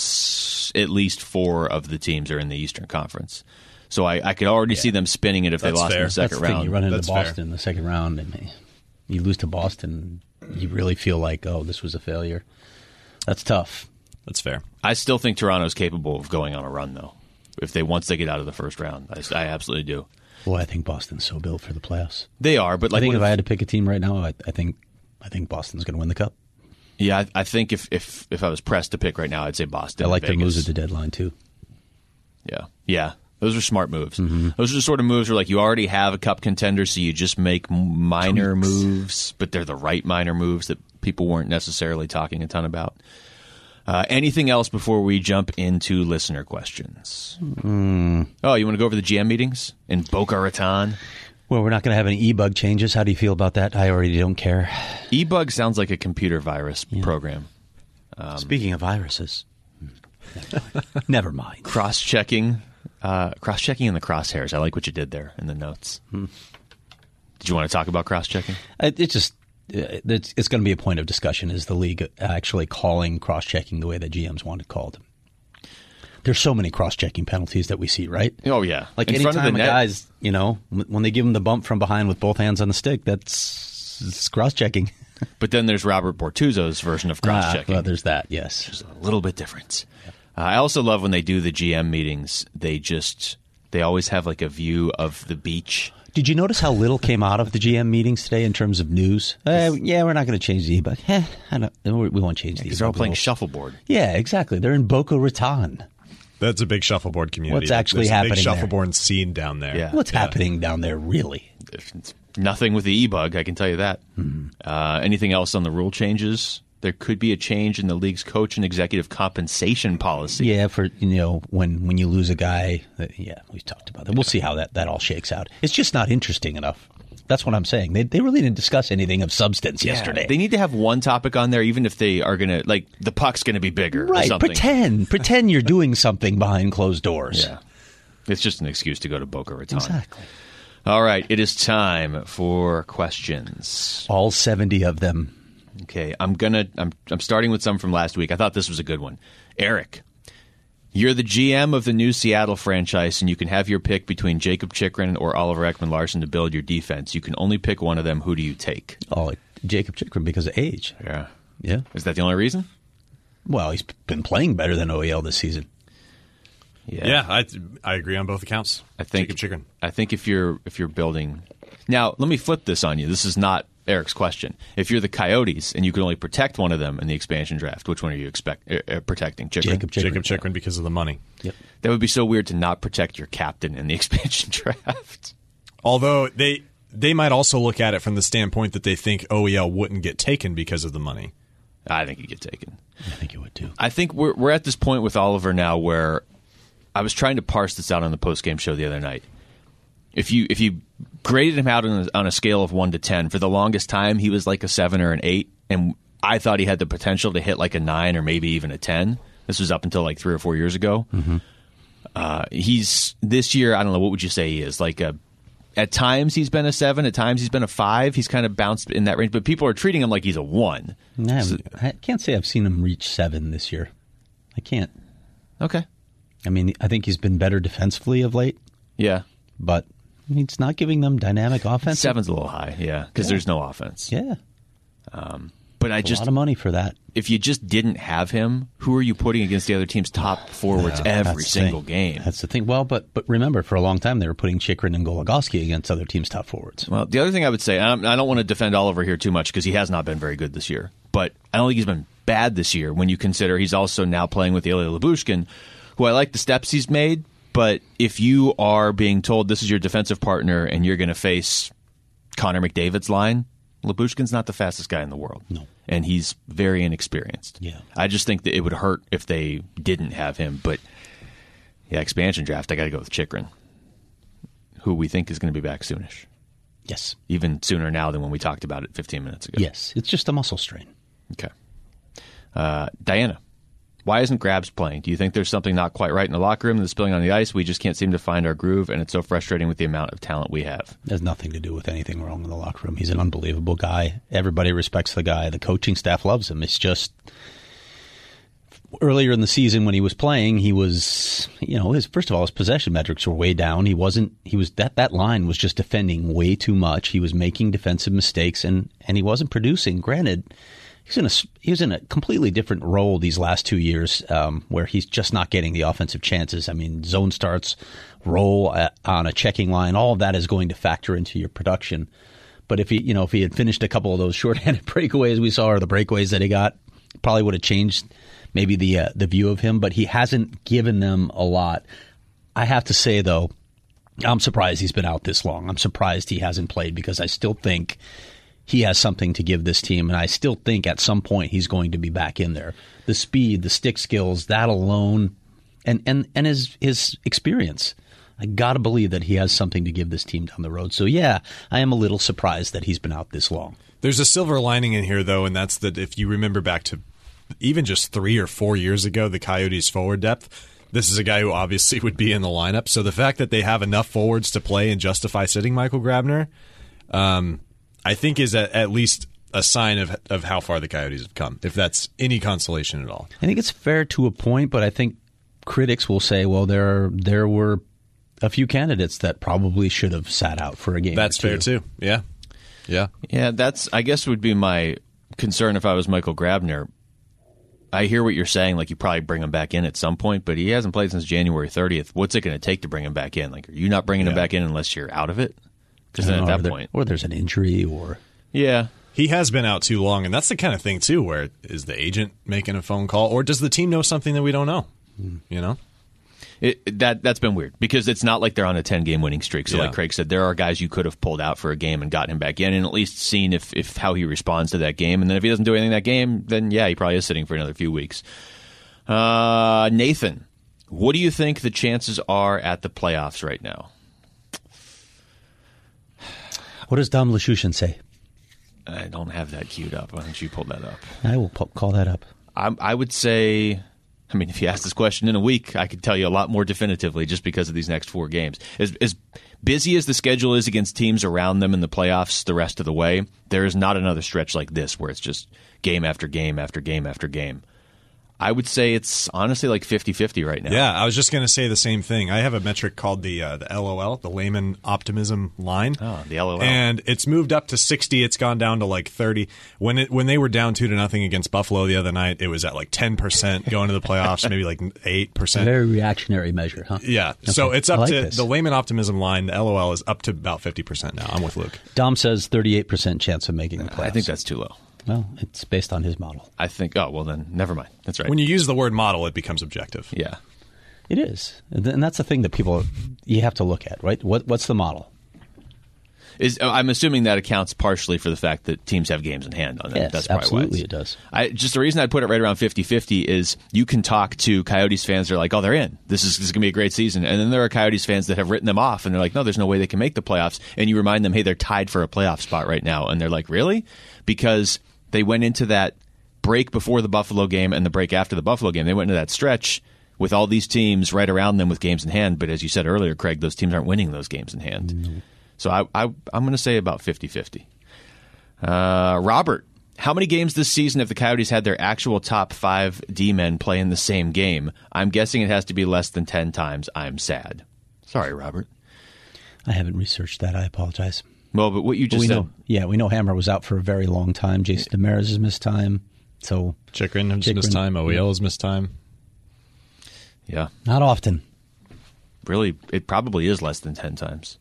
is at least four of the teams are in the Eastern Conference. So I, I could already yeah. see them spinning it if That's they lost fair. in the second That's the round. thing. You run into That's Boston fair. in the second round, and you lose to Boston, you really feel like, oh, this was a failure. That's tough. That's fair. I still think Toronto's capable of going on a run, though. If they once they get out of the first round, I, I absolutely do. Boy, I think Boston's so built for the playoffs. They are, but like I think what if I had to pick a team right now, I, I think I think Boston's going to win the cup. Yeah, I, I think if, if if I was pressed to pick right now, I'd say Boston. I like Vegas. their moves at the deadline too. Yeah, yeah, those are smart moves. Mm-hmm. Those are the sort of moves where like you already have a cup contender, so you just make minor Tweaks. moves, but they're the right minor moves that people weren't necessarily talking a ton about. Uh, anything else before we jump into listener questions? Mm. Oh, you want to go over the G M meetings in Boca Raton? Well, we're not going to have any e-bug changes. How do you feel about that? I already don't care. E-bug sounds like a computer virus yeah. program. Um, Speaking of viruses, never mind. Never mind. Cross-checking, uh, cross-checking in the crosshairs. I like what you did there in the notes. Hmm. Did you want to talk about cross-checking? It, it just it's, it's going to be a point of discussion. Is the league actually calling cross-checking the way that G Ms want it called? There's so many cross-checking penalties that we see, right? Oh, yeah. Like in anytime front of the a net. guy's, you know, when they give him the bump from behind with both hands on the stick, that's it's cross-checking. But then there's Robert Bortuzzo's version of cross-checking. Ah, well, there's that, yes. Which is a little bit different. Uh, I also love when they do the G M meetings, they just, they always have like a view of the beach. Did you notice how little came out of the G M meetings today in terms of news? Uh, yeah, we're not going to change the e-bug. Eh, I don't, we won't change the e-bug. Because they're all playing shuffleboard. Yeah, exactly. They're in Boca Raton. That's a big shuffleboard community. What's actually There's happening a big there? shuffleboard scene down there. Yeah. What's yeah. happening down there, really? It's nothing with the e-bug, I can tell you that. Mm-hmm. Uh, anything else on the rule changes? There could be a change in the league's coach and executive compensation policy. Yeah, for you know when, when you lose a guy. Uh, yeah, we've talked about that. We'll see how that, that all shakes out. It's just not interesting enough. That's what I'm saying. They they really didn't discuss anything of substance yeah, yesterday. They need to have one topic on there, even if they are going to, like, the puck's going to be bigger right, or something. pretend. pretend you're doing something behind closed doors. Yeah. It's just an excuse to go to Boca Raton. Exactly. All right, it is time for questions. All seventy of them. Okay, I'm gonna. I'm. I'm starting with some from last week. I thought this was a good one. Eric, you're the G M of the new Seattle franchise, and you can have your pick between Jacob Chikrin or Oliver Ekman-Larsson to build your defense. You can only pick one of them. Who do you take? Oh, Jacob Chikrin because of age. Yeah. Yeah. Is that the only reason? Well, he's been playing better than O E L this season. Yeah, yeah I, I agree on both accounts. I think Jakob Chychrun. I think if you're if you're building now, let me flip this on you. This is not Eric's question. If you're the Coyotes and you can only protect one of them in the expansion draft, which one are you expect uh, protecting? Chychrun? Jakob Chychrun. Jakob Chychrun because of the money. Yep. That would be so weird to not protect your captain in the expansion draft. Although they they might also look at it from the standpoint that they think O E L wouldn't get taken because of the money. I think he'd get taken. I think it would too. I think we're we're at this point with Oliver now where I was trying to parse this out on the postgame show the other night. If you if you graded him out on a, on a scale of one to ten, for the longest time he was like a seven or an eight, and I thought he had the potential to hit like a nine or maybe even a ten. This was up until like three or four years ago. Mm-hmm. Uh, he's this year. I don't know, what would you say he is? Like a at times he's been a seven, at times he's been a five. He's kind of bounced in that range, but people are treating him like he's a one. No, So- I can't say I've seen him reach seven this year. I can't. okay, I mean, I think he's been better defensively of late, yeah, but he's not giving them dynamic offense. seven's a little high, yeah, because Yeah. there's no offense. Yeah, But I a just lot of money for that. if you just didn't have him, who are you putting against the other team's top forwards Yeah, every that's the single thing. game? That's the thing. Well, but but remember, for a long time they were putting Chychrun and Goligoski against other teams' top forwards. Well, the other thing I would say, and I'm- I don't want to defend Oliver here too much because he has not been very good this year, but I don't think he's been bad this year when you consider he's also now playing with Ilya Lyubushkin, who I like the steps he's made, but if you are being told this is your defensive partner and you're going to face Connor McDavid's line, Lyubushkin's not the fastest guy in the world. No. And he's very inexperienced. Yeah. I just think that it would hurt if they didn't have him, but yeah, expansion draft, I got to go with Chychrun, who we think is going to be back soonish. Yes, Even sooner now than when we talked about it fifteen minutes ago. yes, it's just a muscle strain. Okay. Uh, Diana, why isn't Grabs playing? Do you think there's something not quite right in the locker room that's spilling on the ice? We just can't seem to find our groove, and it's so frustrating with the amount of talent we have. It has nothing to do with anything wrong in the locker room. He's an unbelievable guy. Everybody respects the guy. The coaching staff loves him. It's just earlier in the season when he was playing, he was, you know, his first of all, his possession metrics were way down. He wasn't. He was that that line was just defending way too much. He was making defensive mistakes, and and he wasn't producing. Granted, he's in a he was in a completely different role these last two years, um, where he's just not getting the offensive chances. I mean, zone starts, roll at, on a checking line, all of that is going to factor into your production. But if he, you know, if he had finished a couple of those shorthanded breakaways we saw, or the breakaways that he got, probably would have changed maybe the uh, the view of him. But he hasn't given them a lot. I have to say though, I'm surprised he's been out this long. I'm surprised he hasn't played because I still think he has something to give this team, and I still think at some point he's going to be back in there. The speed, the stick skills, that alone, and and and his his experience. I got to believe that he has something to give this team down the road. So, yeah, I am a little surprised that he's been out this long. There's a silver lining in here, though, and that's that if you remember back to even just three or four years ago, the Coyotes' forward depth, this is a guy who obviously would be in the lineup. So the fact that they have enough forwards to play and justify sitting Michael Grabner, um, I think is at, at least a sign of of how far the Coyotes have come, if that's any consolation at all. I think it's fair to a point, but I think critics will say, well, there there were a few candidates that probably should have sat out for a game. That's or two. fair, too. Yeah. Yeah. Yeah, that's, I guess, would be my concern if I was Michael Grabner. I hear what you're saying, like you probably bring him back in at some point, but he hasn't played since January thirtieth. What's it going to take to bring him back in? Like, are you not bringing him Yeah. back in unless you're out of it? Because I then don't at know, or that there- point, or there's an injury, or yeah. He has been out too long, and that's the kind of thing, too, where is the agent making a phone call, or does the team know something that we don't know? You know? It, that that's been weird because it's not like they're on a ten-game winning streak. So, Yeah. like Craig said, there are guys you could have pulled out for a game and gotten him back in, and at least seen if, if how he responds to that game. And then if he doesn't do anything that game, then yeah, he probably is sitting for another few weeks. Uh, Nathan, what do you think the chances are at the playoffs right now? what does Dom Lushushin say? I don't have that queued up. Why don't you pull that up? I will po- call that up. I, I would say, I mean, if you ask this question in a week, I could tell you a lot more definitively just because of these next four games. As, as busy as the schedule is against teams around them in the playoffs the rest of the way, there is not another stretch like this where it's just game after game after game after game. I would say it's honestly like fifty-fifty right now. Yeah, I was just going to say the same thing. I have a metric called the uh, the L O L, the layman optimism line. Oh, the L O L. And it's moved up to sixty. It's gone down to like thirty. When it when they were down two to nothing against Buffalo the other night, it was at like ten percent going to the playoffs, maybe like eight percent. Very reactionary measure, huh? Yeah. Okay. So it's up I like to this. the layman optimism line. The L O L is up to about fifty percent now. I'm with Luke. Dom says thirty-eight percent chance of making the playoffs. I think that's too low. Well, it's based on his model. I think, oh, well then, never mind. That's right. When you use the word model, it becomes objective. yeah. It is. And that's the thing that people, you have to look at, right? What, what's the model? Is I'm assuming that accounts partially for the fact that teams have games in hand on them. Yes, That's probably absolutely why it does. I, just the reason I put it right around fifty-fifty is you can talk to Coyotes fans that are like, oh, they're in. This is, this is going to be a great season. And then there are Coyotes fans that have written them off, and they're like, no, there's no way they can make the playoffs. And you remind them, hey, they're tied for a playoff spot right now. And they're like, really? Because they went into that break before the Buffalo game and the break after the Buffalo game. They went into that stretch with all these teams right around them with games in hand. But as you said earlier, Craig, those teams aren't winning those games in hand. Mm-hmm. So I, I, I'm going to say about fifty-fifty. Uh, Robert, how many games this season have the Coyotes had their actual top five D-men play in the same game? I'm guessing it has to be less than ten times. I'm sad. Sorry, Robert. I haven't researched that. I apologize. Well, but what you just we said. know, yeah, we know Hammer was out for a very long time. Jason Demers has missed time. So Chikrin has Chikrin, missed time. O E L has missed time. Yeah. Not often. Really, it probably is less than ten times.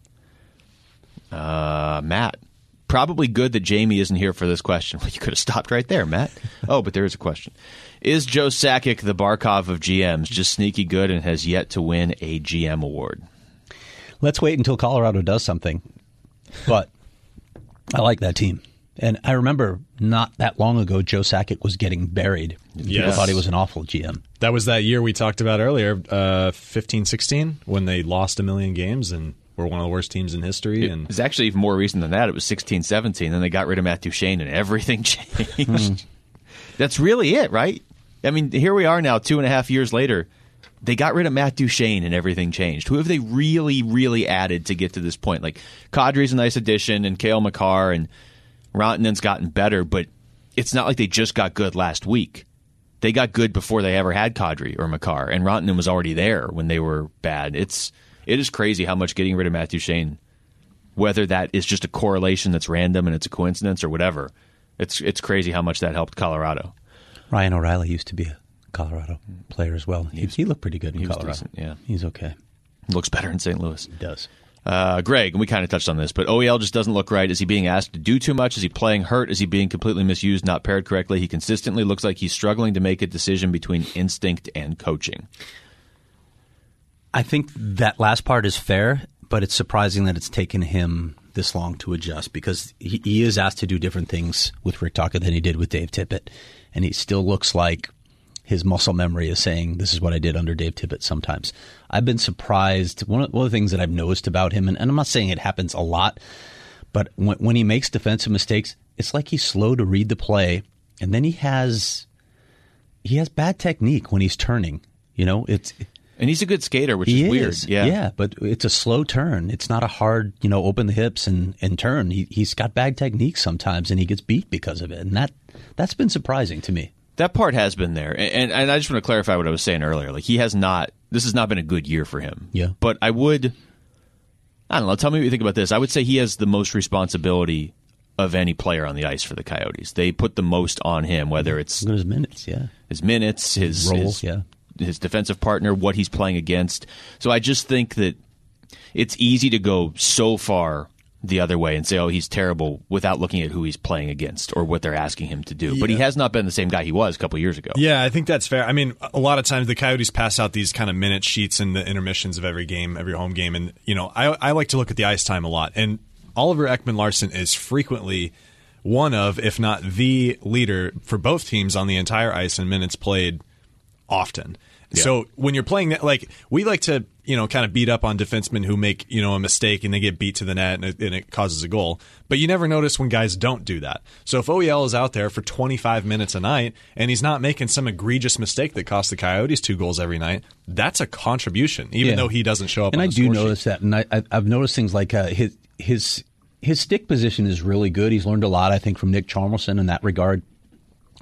Uh, Matt, probably good that Jamie isn't here for this question. Well, you could have stopped right there, Matt. Oh, but there is a question. Is Joe Sakic the Barkov of G Ms, just sneaky good and has yet to win a G M award? Let's wait until Colorado does something. But I like that team. And I remember not that long ago, Joe Sakic was getting buried. People Yes. thought he was an awful G M. That was that year we talked about earlier, uh, fifteen sixteen, when they lost a million games and were one of the worst teams in history. It And was actually even more recent than that. It was sixteen seventeen. Then they got rid of Matt Duchene and everything changed. That's really it, right? I mean, here we are now, two and a half years later. They got rid of Matt Duchene and everything changed. Who have they really, really added to get to this point? Like, Kadri's a nice addition, and Cale Makar, and Rantanen's gotten better, but it's not like they just got good last week. They got good before they ever had Kadri or Makar, and Rantanen was already there when they were bad. It's it is crazy how much getting rid of Matt Duchene, whether that is just a correlation that's random and it's a coincidence or whatever, it's it's crazy how much that helped Colorado. Ryan O'Reilly used to be a Colorado player as well. He, he looked pretty good in he was Colorado. decent, yeah. He's okay. Looks better in Saint Louis. He does. Uh, Greg, and we kind of touched on this, but O E L just doesn't look right. Is he being asked to do too much? Is he playing hurt? Is he being completely misused, not paired correctly? He consistently looks like he's struggling to make a decision between instinct and coaching. I think that last part is fair, but it's surprising that it's taken him this long to adjust because he, he is asked to do different things with Rick Tocchet than he did with Dave Tippett, and he still looks like his muscle memory is saying, this is what I did under Dave Tippett sometimes. I've been surprised. One of, one of the things that I've noticed about him, and, and I'm not saying it happens a lot, but when, when he makes defensive mistakes, it's like he's slow to read the play, and then he has he has bad technique when he's turning. You know, it's And he's a good skater, which he is weird. is. Yeah. yeah, but it's a slow turn. It's not a hard, you know, open the hips and, and turn. He, he's got bad technique sometimes, and he gets beat because of it, and that that's been surprising to me. That part has been there. And, and, and I just want to clarify what I was saying earlier. Like, he has not, this has not been a good year for him. Yeah. But I would, I don't know, tell me what you think about this. I would say he has the most responsibility of any player on the ice for the Coyotes. They put the most on him, whether it's Look at his minutes, yeah. his minutes, his Role, his, yeah. his defensive partner, what he's playing against. So I just think that it's easy to go so far the other way and say, oh, he's terrible without looking at who he's playing against or what they're asking him to do. Yeah. But he has not been the same guy he was a couple of years ago. Yeah, I think that's fair. I mean, a lot of times the Coyotes pass out these kind of minute sheets in the intermissions of every game, every home game. And, you know, I, I like to look at the ice time a lot. And Oliver Ekman-Larsson is frequently one of, if not the leader for both teams on the entire ice in minutes played often. Yeah. So when you're playing that, like, we like to, you know, kind of beat up on defensemen who make, you know, a mistake and they get beat to the net and it, and it causes a goal. But you never notice when guys don't do that. So if O E L is out there for twenty-five minutes a night and he's not making some egregious mistake that costs the Coyotes two goals every night, that's a contribution, even Yeah. though he doesn't show up And on I the do score notice sheet. that. And I, I, I've noticed things like uh, his his his stick position is really good. He's learned a lot, I think, from Nick Chalmerson in that regard.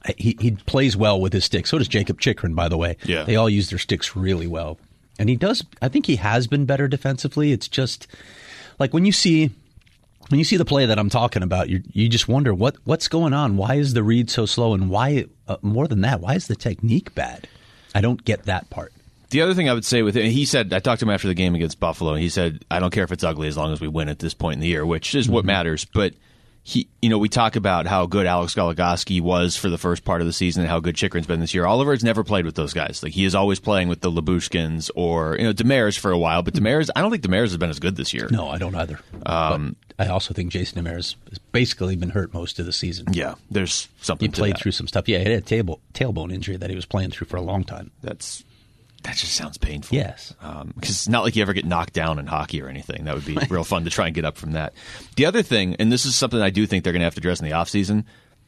he he plays well with his sticks. So does Jacob Chikrin, by the way. Yeah. They all use their sticks really well. And he does, I think he has been better defensively. It's just, like when you see when you see the play that I'm talking about, you you just wonder what what's going on. Why is the read so slow? And why, uh, more than that, why is the technique bad? I don't get that part. The other thing I would say with it, he said, I talked to him after the game against Buffalo, and he said, I don't care if it's ugly as long as we win at this point in the year, which is mm-hmm. what matters. But he, you know, we talk about how good Alex Goligoski was for the first part of the season and how good Chikrin's been this year. Oliver's never played with those guys. Like, he is always playing with the Labushkins or, you know, Demers for a while. But Demers, I don't think Demers has been as good this year. No, I don't either. Um, but I also think Jason Demers has basically been hurt most of the season. Yeah, there's something He to played that. through some stuff. Yeah, he had a table, tailbone injury that he was playing through for a long time. That's That just sounds painful. Yes. Um, because it's not like you ever get knocked down in hockey or anything. That would be real fun to try and get up from that. The other thing, and this is something I do think they're going to have to address in the offseason,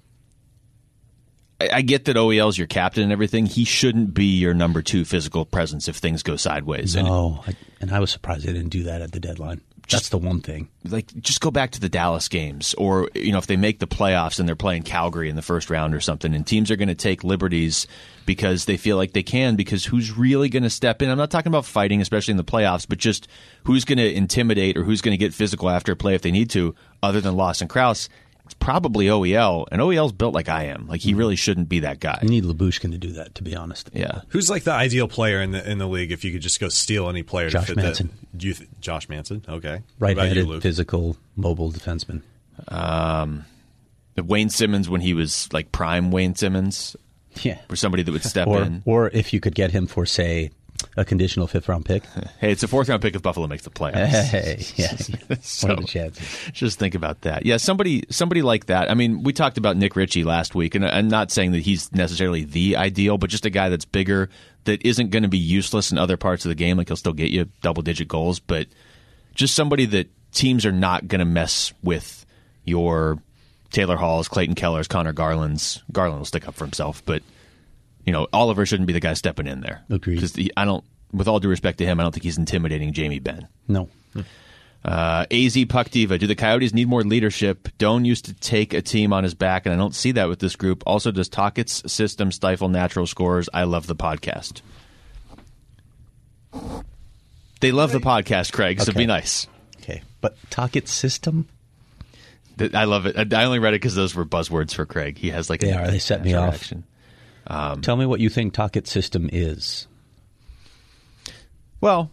I, I get that O E L's your captain and everything. He shouldn't be your number two physical presence if things go sideways. No, and, I, and I was surprised they didn't do that at the deadline. That's the one thing. Like, just go back to the Dallas games, or, you know, if they make the playoffs and they're playing Calgary in the first round or something, and teams are going to take liberties because they feel like they can, because who's really going to step in? I'm not talking about fighting, especially in the playoffs, but just who's going to intimidate or who's going to get physical after a play if they need to, other than Lawson Krause. It's probably O E L, and O E L's built like I am. Like, he really shouldn't be that guy. You need Labushkin to do that, to be honest. Yeah. Who's like the ideal player in the in the league if you could just go steal any player Josh to fit Manson. that? Do you th- Josh Manson? Okay. Right-handed, physical, mobile defenseman. Um, Wayne Simmons, when he was like prime Wayne Simmons, Yeah. for somebody that would step or, in. Or if you could get him for, say, a conditional fifth-round pick. Hey, it's a fourth-round pick if Buffalo makes the playoffs. Hey, yeah. So, what are the chances? Just think about that. Yeah, somebody somebody like that. I mean, we talked about Nick Ritchie last week, and I'm not saying that he's necessarily the ideal, but just a guy that's bigger, that isn't going to be useless in other parts of the game. Like, he'll still get you double-digit goals, but just somebody that teams are not going to mess with your Taylor Halls, Clayton Kellers, Connor Garland's. Garland will stick up for himself, but you know, Oliver shouldn't be the guy stepping in there. Agreed. Because I don't, with all due respect to him, I don't think he's intimidating Jamie Benn. No. Uh, A Z Puck Diva, do the Coyotes need more leadership? Doan used to take a team on his back, and I don't see that with this group. Also, does Tockett's system stifle natural scorers? I love the podcast. They love the podcast, Craig, so Okay. be nice. Okay. But Tockett's system? I love it. I only read it because those were buzzwords for Craig. He has like They a are. They set me natural off. reaction. Um, Tell me what you think Tockett's system is. Well,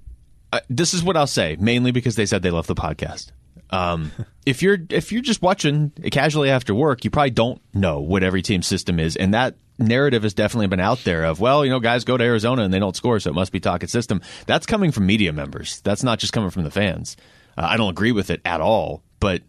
uh, this is what I'll say, mainly because they said they love the podcast. Um, if you're if you're just watching casually after work, you probably don't know what every team's system is, and that narrative has definitely been out there of, well, you know, guys go to Arizona and they don't score, so it must be Tockett's system. That's coming from media members. That's not just coming from the fans. Uh, I don't agree with it at all, but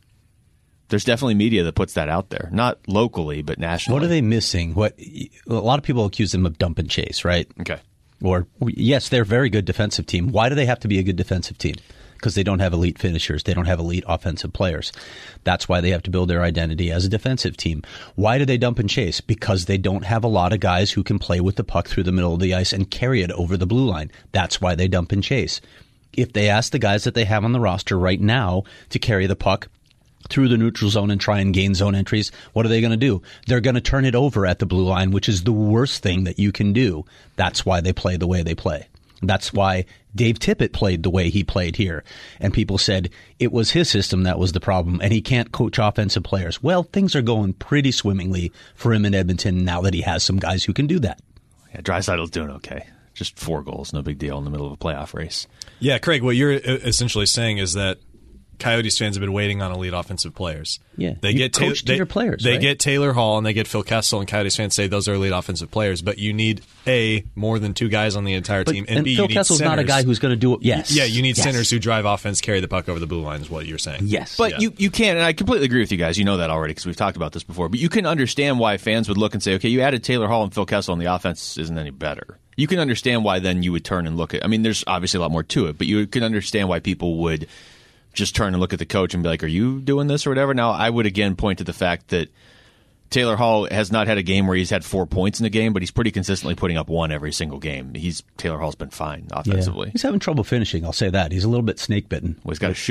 there's definitely media that puts that out there, not locally, but nationally. What are they missing? What a lot of people accuse them of dump and chase, right? Okay. Or, yes, they're a very good defensive team. Why do they have to be a good defensive team? Because they don't have elite finishers. They don't have elite offensive players. That's why they have to build their identity as a defensive team. Why do they dump and chase? Because they don't have a lot of guys who can play with the puck through the middle of the ice and carry it over the blue line. That's why they dump and chase. If they ask the guys that they have on the roster right now to carry the puck through the neutral zone and try and gain zone entries, what are they going to do? They're going to turn it over at the blue line, which is the worst thing that you can do. That's why they play the way they play. That's why Dave Tippett played the way he played here. And people said it was his system that was the problem, and he can't coach offensive players. Well, things are going pretty swimmingly for him in Edmonton now that he has some guys who can do that. Yeah, Draisaitl's doing okay. Just four goals, no big deal in the middle of a playoff race. Yeah, Craig, what you're essentially saying is that Coyotes fans have been waiting on elite offensive players. Yeah, they you get coach they, your players. They right? get Taylor Hall and they get Phil Kessel, and Coyotes fans say those are elite offensive players. But you need a more than two guys on the entire but, team, and, and B, Phil you need Kessel's centers. not a guy who's going to do it. Yes, Yeah, you need yes. centers who drive offense, carry the puck over the blue line. Is what you're saying. Yes, But Yeah. you, you can, and I completely agree with you guys. You know that already because we've talked about this before. But you can understand why fans would look and say, okay, you added Taylor Hall and Phil Kessel, and the offense isn't any better. You can understand why then you would turn and look at. I mean, there's obviously a lot more to it, but you can understand why people would just turn and look at the coach and be like, are you doing this or whatever? Now, I would again point to the fact that Taylor Hall has not had a game where he's had four points in a game, but he's pretty consistently putting up one every single game. He's Taylor Hall's been fine offensively. Yeah. He's having trouble finishing, I'll say that. He's a little bit snake bitten. Well, he's got to shoot.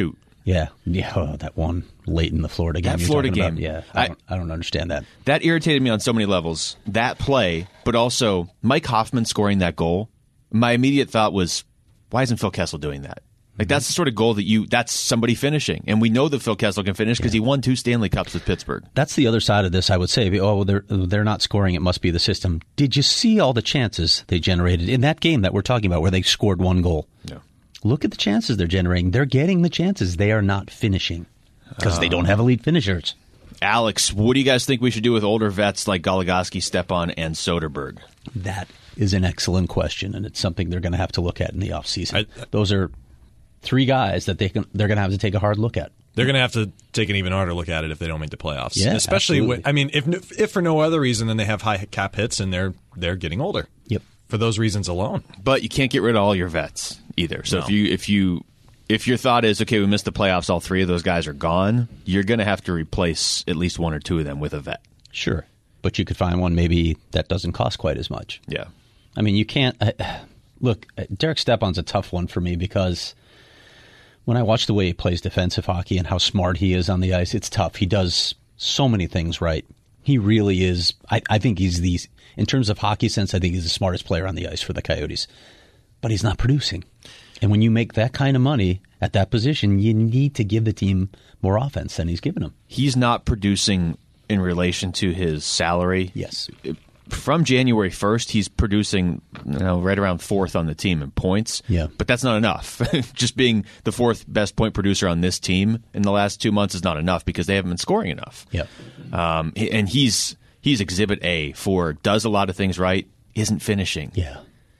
Yeah, yeah. Oh, that one late in the Florida game. That you're Florida talking game. About, yeah, I, I- don't, I don't understand that. That irritated me on so many levels. That play, but also Mike Hoffman scoring that goal. My immediate thought was, why isn't Phil Kessel doing that? Like, that's the sort of goal that you, that's somebody finishing. And we know that Phil Kessel can finish because he won two Stanley Cups with Pittsburgh. That's the other side of this, I would say. Oh, well, they're, they're not scoring. It must be the system. Did you see all the chances they generated in that game that we're talking about where they scored one goal? No. Look at the chances they're generating. They're getting the chances. They are not finishing because they don't have elite finishers. Alex, what do you guys think we should do with older vets like Goligoski, Stepan, and Soderberg? That is an excellent question, and it's something they're going to have to look at in the offseason. I- Those are three guys that they can, they're going to have to take a hard look at. They're going to have to take an even harder look at it if they don't make the playoffs. Yeah, especially when, absolutely. I mean, if if for no other reason than they have high cap hits and they're they're getting older. Yep. For those reasons alone. But you can't get rid of all your vets either. So No. if you if you if your thought is, okay, we missed the playoffs, all three of those guys are gone, you're going to have to replace at least one or two of them with a vet. Sure. But you could find one maybe that doesn't cost quite as much. Yeah. I mean, you can't uh, look. uh, Derek Stepan's a tough one for me because when I watch the way he plays defensive hockey and how smart he is on the ice, it's tough. He does so many things right. He really is. I, I think he's the, in terms of hockey sense, I think he's the smartest player on the ice for the Coyotes. But he's not producing. And when you make that kind of money at that position, you need to give the team more offense than he's given them. He's not producing in relation to his salary. Yes. From January first, he's producing, you know, right around fourth on the team in points. Yeah. But that's not enough. Just being the fourth best point producer on this team in the last two months is not enough because they haven't been scoring enough. Yep. Um, and he's he's Exhibit A for does a lot of things right, isn't finishing. Yeah.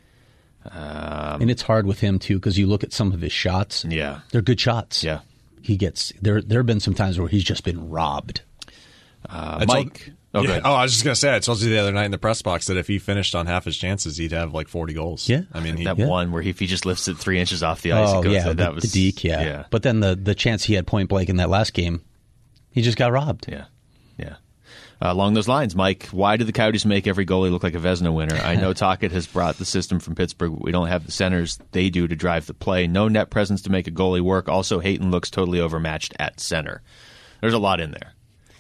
Um, and it's hard with him, too, because you look at some of his shots. Yeah. They're good shots. Yeah. He gets there. There have been some times where he's just been robbed. Uh, I told- Mike. Oh, yeah. good. oh, I was just going to say, I told you the other night in the press box that if he finished on half his chances, he'd have like forty goals. Yeah. I mean, he, That Yeah. one where he, if he just lifts it three inches off the ice, Oh it goes, yeah, that the, was the deke. Yeah. yeah, But then the the chance he had point blank in that last game, he just got robbed. yeah, yeah. Uh, along those lines, Mike, why do the Coyotes make every goalie look like a Vezina winner? I know Tocchet has brought the system from Pittsburgh. But we don't have the centers they do to drive the play. No net presence to make a goalie work. Also, Hayton looks totally overmatched at center. There's a lot in there.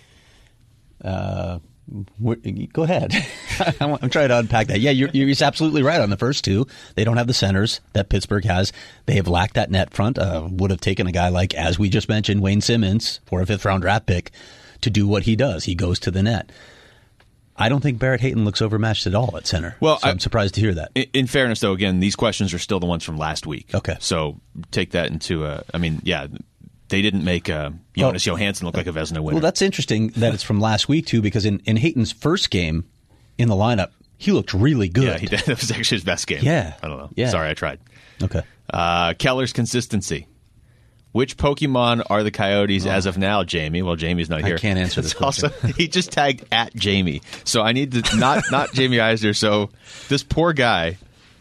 Uh, wh- go ahead. I'm I'm trying to unpack that. Yeah, you're, you're absolutely right on the first two. They don't have the centers that Pittsburgh has. They have lacked that net front. Uh, would have taken a guy like, as we just mentioned, Wayne Simmons, for a fifth round draft pick, to do what he does. He goes to the net. I don't think Barrett Hayton looks overmatched at all at center. Well, so I- I'm surprised to hear that. In, in fairness, though, again, these questions are still the ones from last week. Okay. So take that into a. I mean, yeah, they didn't make uh, Jonas Johansson look like a Vezina winner. Well, that's interesting that it's from last week, too, because in, in Hayton's first game in the lineup, he looked really good. yeah, he did. That was actually his best game. Yeah. I don't know. Yeah. Sorry, I tried. Okay. Uh, Keller's consistency. Which Pokemon are the Coyotes as of now, Jamie? Well, Jamie's not I here. can't answer this It's also, he just tagged at Jamie. So I need to, not not Jamie Eisner. So this poor guy,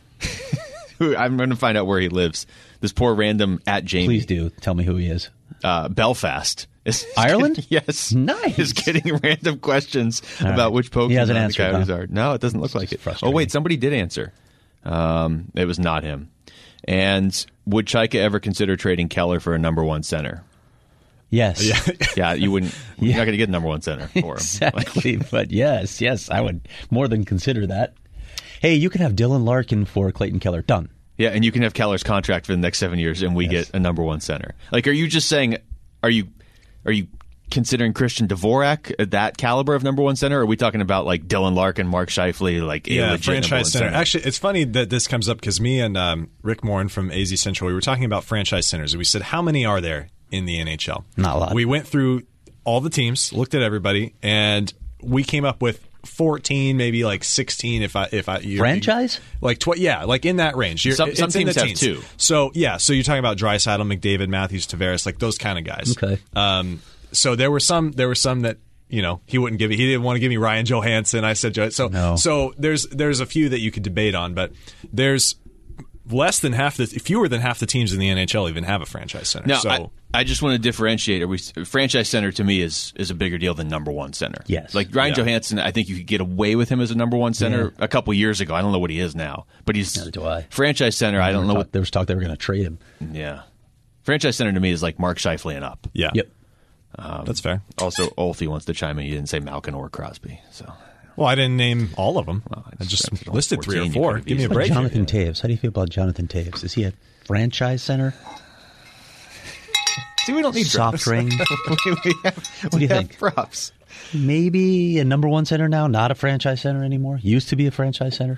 who I'm going to find out where he lives. This poor random at Jamie. Please do. Tell me who he is. Uh, Belfast. Is Ireland? getting- yes. Nice. Is getting random questions All about right. which Pokemon He hasn't the answered, Coyotes huh? are. No, it doesn't look like it. Oh, frustrating. wait, somebody did answer. Um, it was not him. And would Chaika ever consider trading Keller for a number one center? Yes. Yeah. Yeah, you wouldn't. You're not going to get a number one center for him. Exactly. But yes, yes, I would more than consider that. Hey, you can have Dylan Larkin for Clayton Keller. Done. Yeah, and you can have Keller's contract for the next seven years, and we Yes. get a number one center. Like, are you just saying? Are you are you considering Christian Dvorak at that caliber of number one center? Or are we talking about like Dylan Larkin, Mark Scheifele, like a Yeah, legit number one franchise center. center? Actually, it's funny that this comes up because me and um, Rick Morin from A Z Central, we were talking about franchise centers, and we said, how many are there in the N H L? Not a lot. We went through all the teams, looked at everybody, and we came up with fourteen, maybe like sixteen. If I if I you, Franchise? like tw- yeah, like in that range. You're, Some- it's some in the teams have teens. two. So yeah, so you're talking about Draisaitl, McDavid, Matthews, Tavares, like those kind of guys. Okay. Um, so there were some. There were some that you know he wouldn't give me. He didn't want to give me Ryan Johansson. I said Jo- so. No. So there's there's a few that you could debate on, but there's less than half the fewer than half the teams in the N H L even have a franchise center. Now, so I, I just want to differentiate. Are we, franchise center to me is is a bigger deal than number one center. Yes. Like Ryan Yeah. Johansson, I think you could get away with him as a number one center Yeah. a couple years ago. I don't know what he is now, but he's Neither do I. franchise center. I don't know Talk- what. there was talk they were going to trade him. Yeah. Franchise center to me is like Mark Scheifele and up. Yeah. Yep. Um, That's fair. Also, Olfie wants to chime in. He didn't say Malkin or Crosby. So, Well, I didn't name all of them. Well, I just it's listed three or fourteen, you four. could've Give me a easily- break. here. Jonathan Taves. How do you feel about Jonathan Taves? Is he a franchise center? See, we don't need Soft props. ring? we, we have, What do you we have think? props. Maybe a number one center now, not a franchise center anymore. Used to be a franchise center.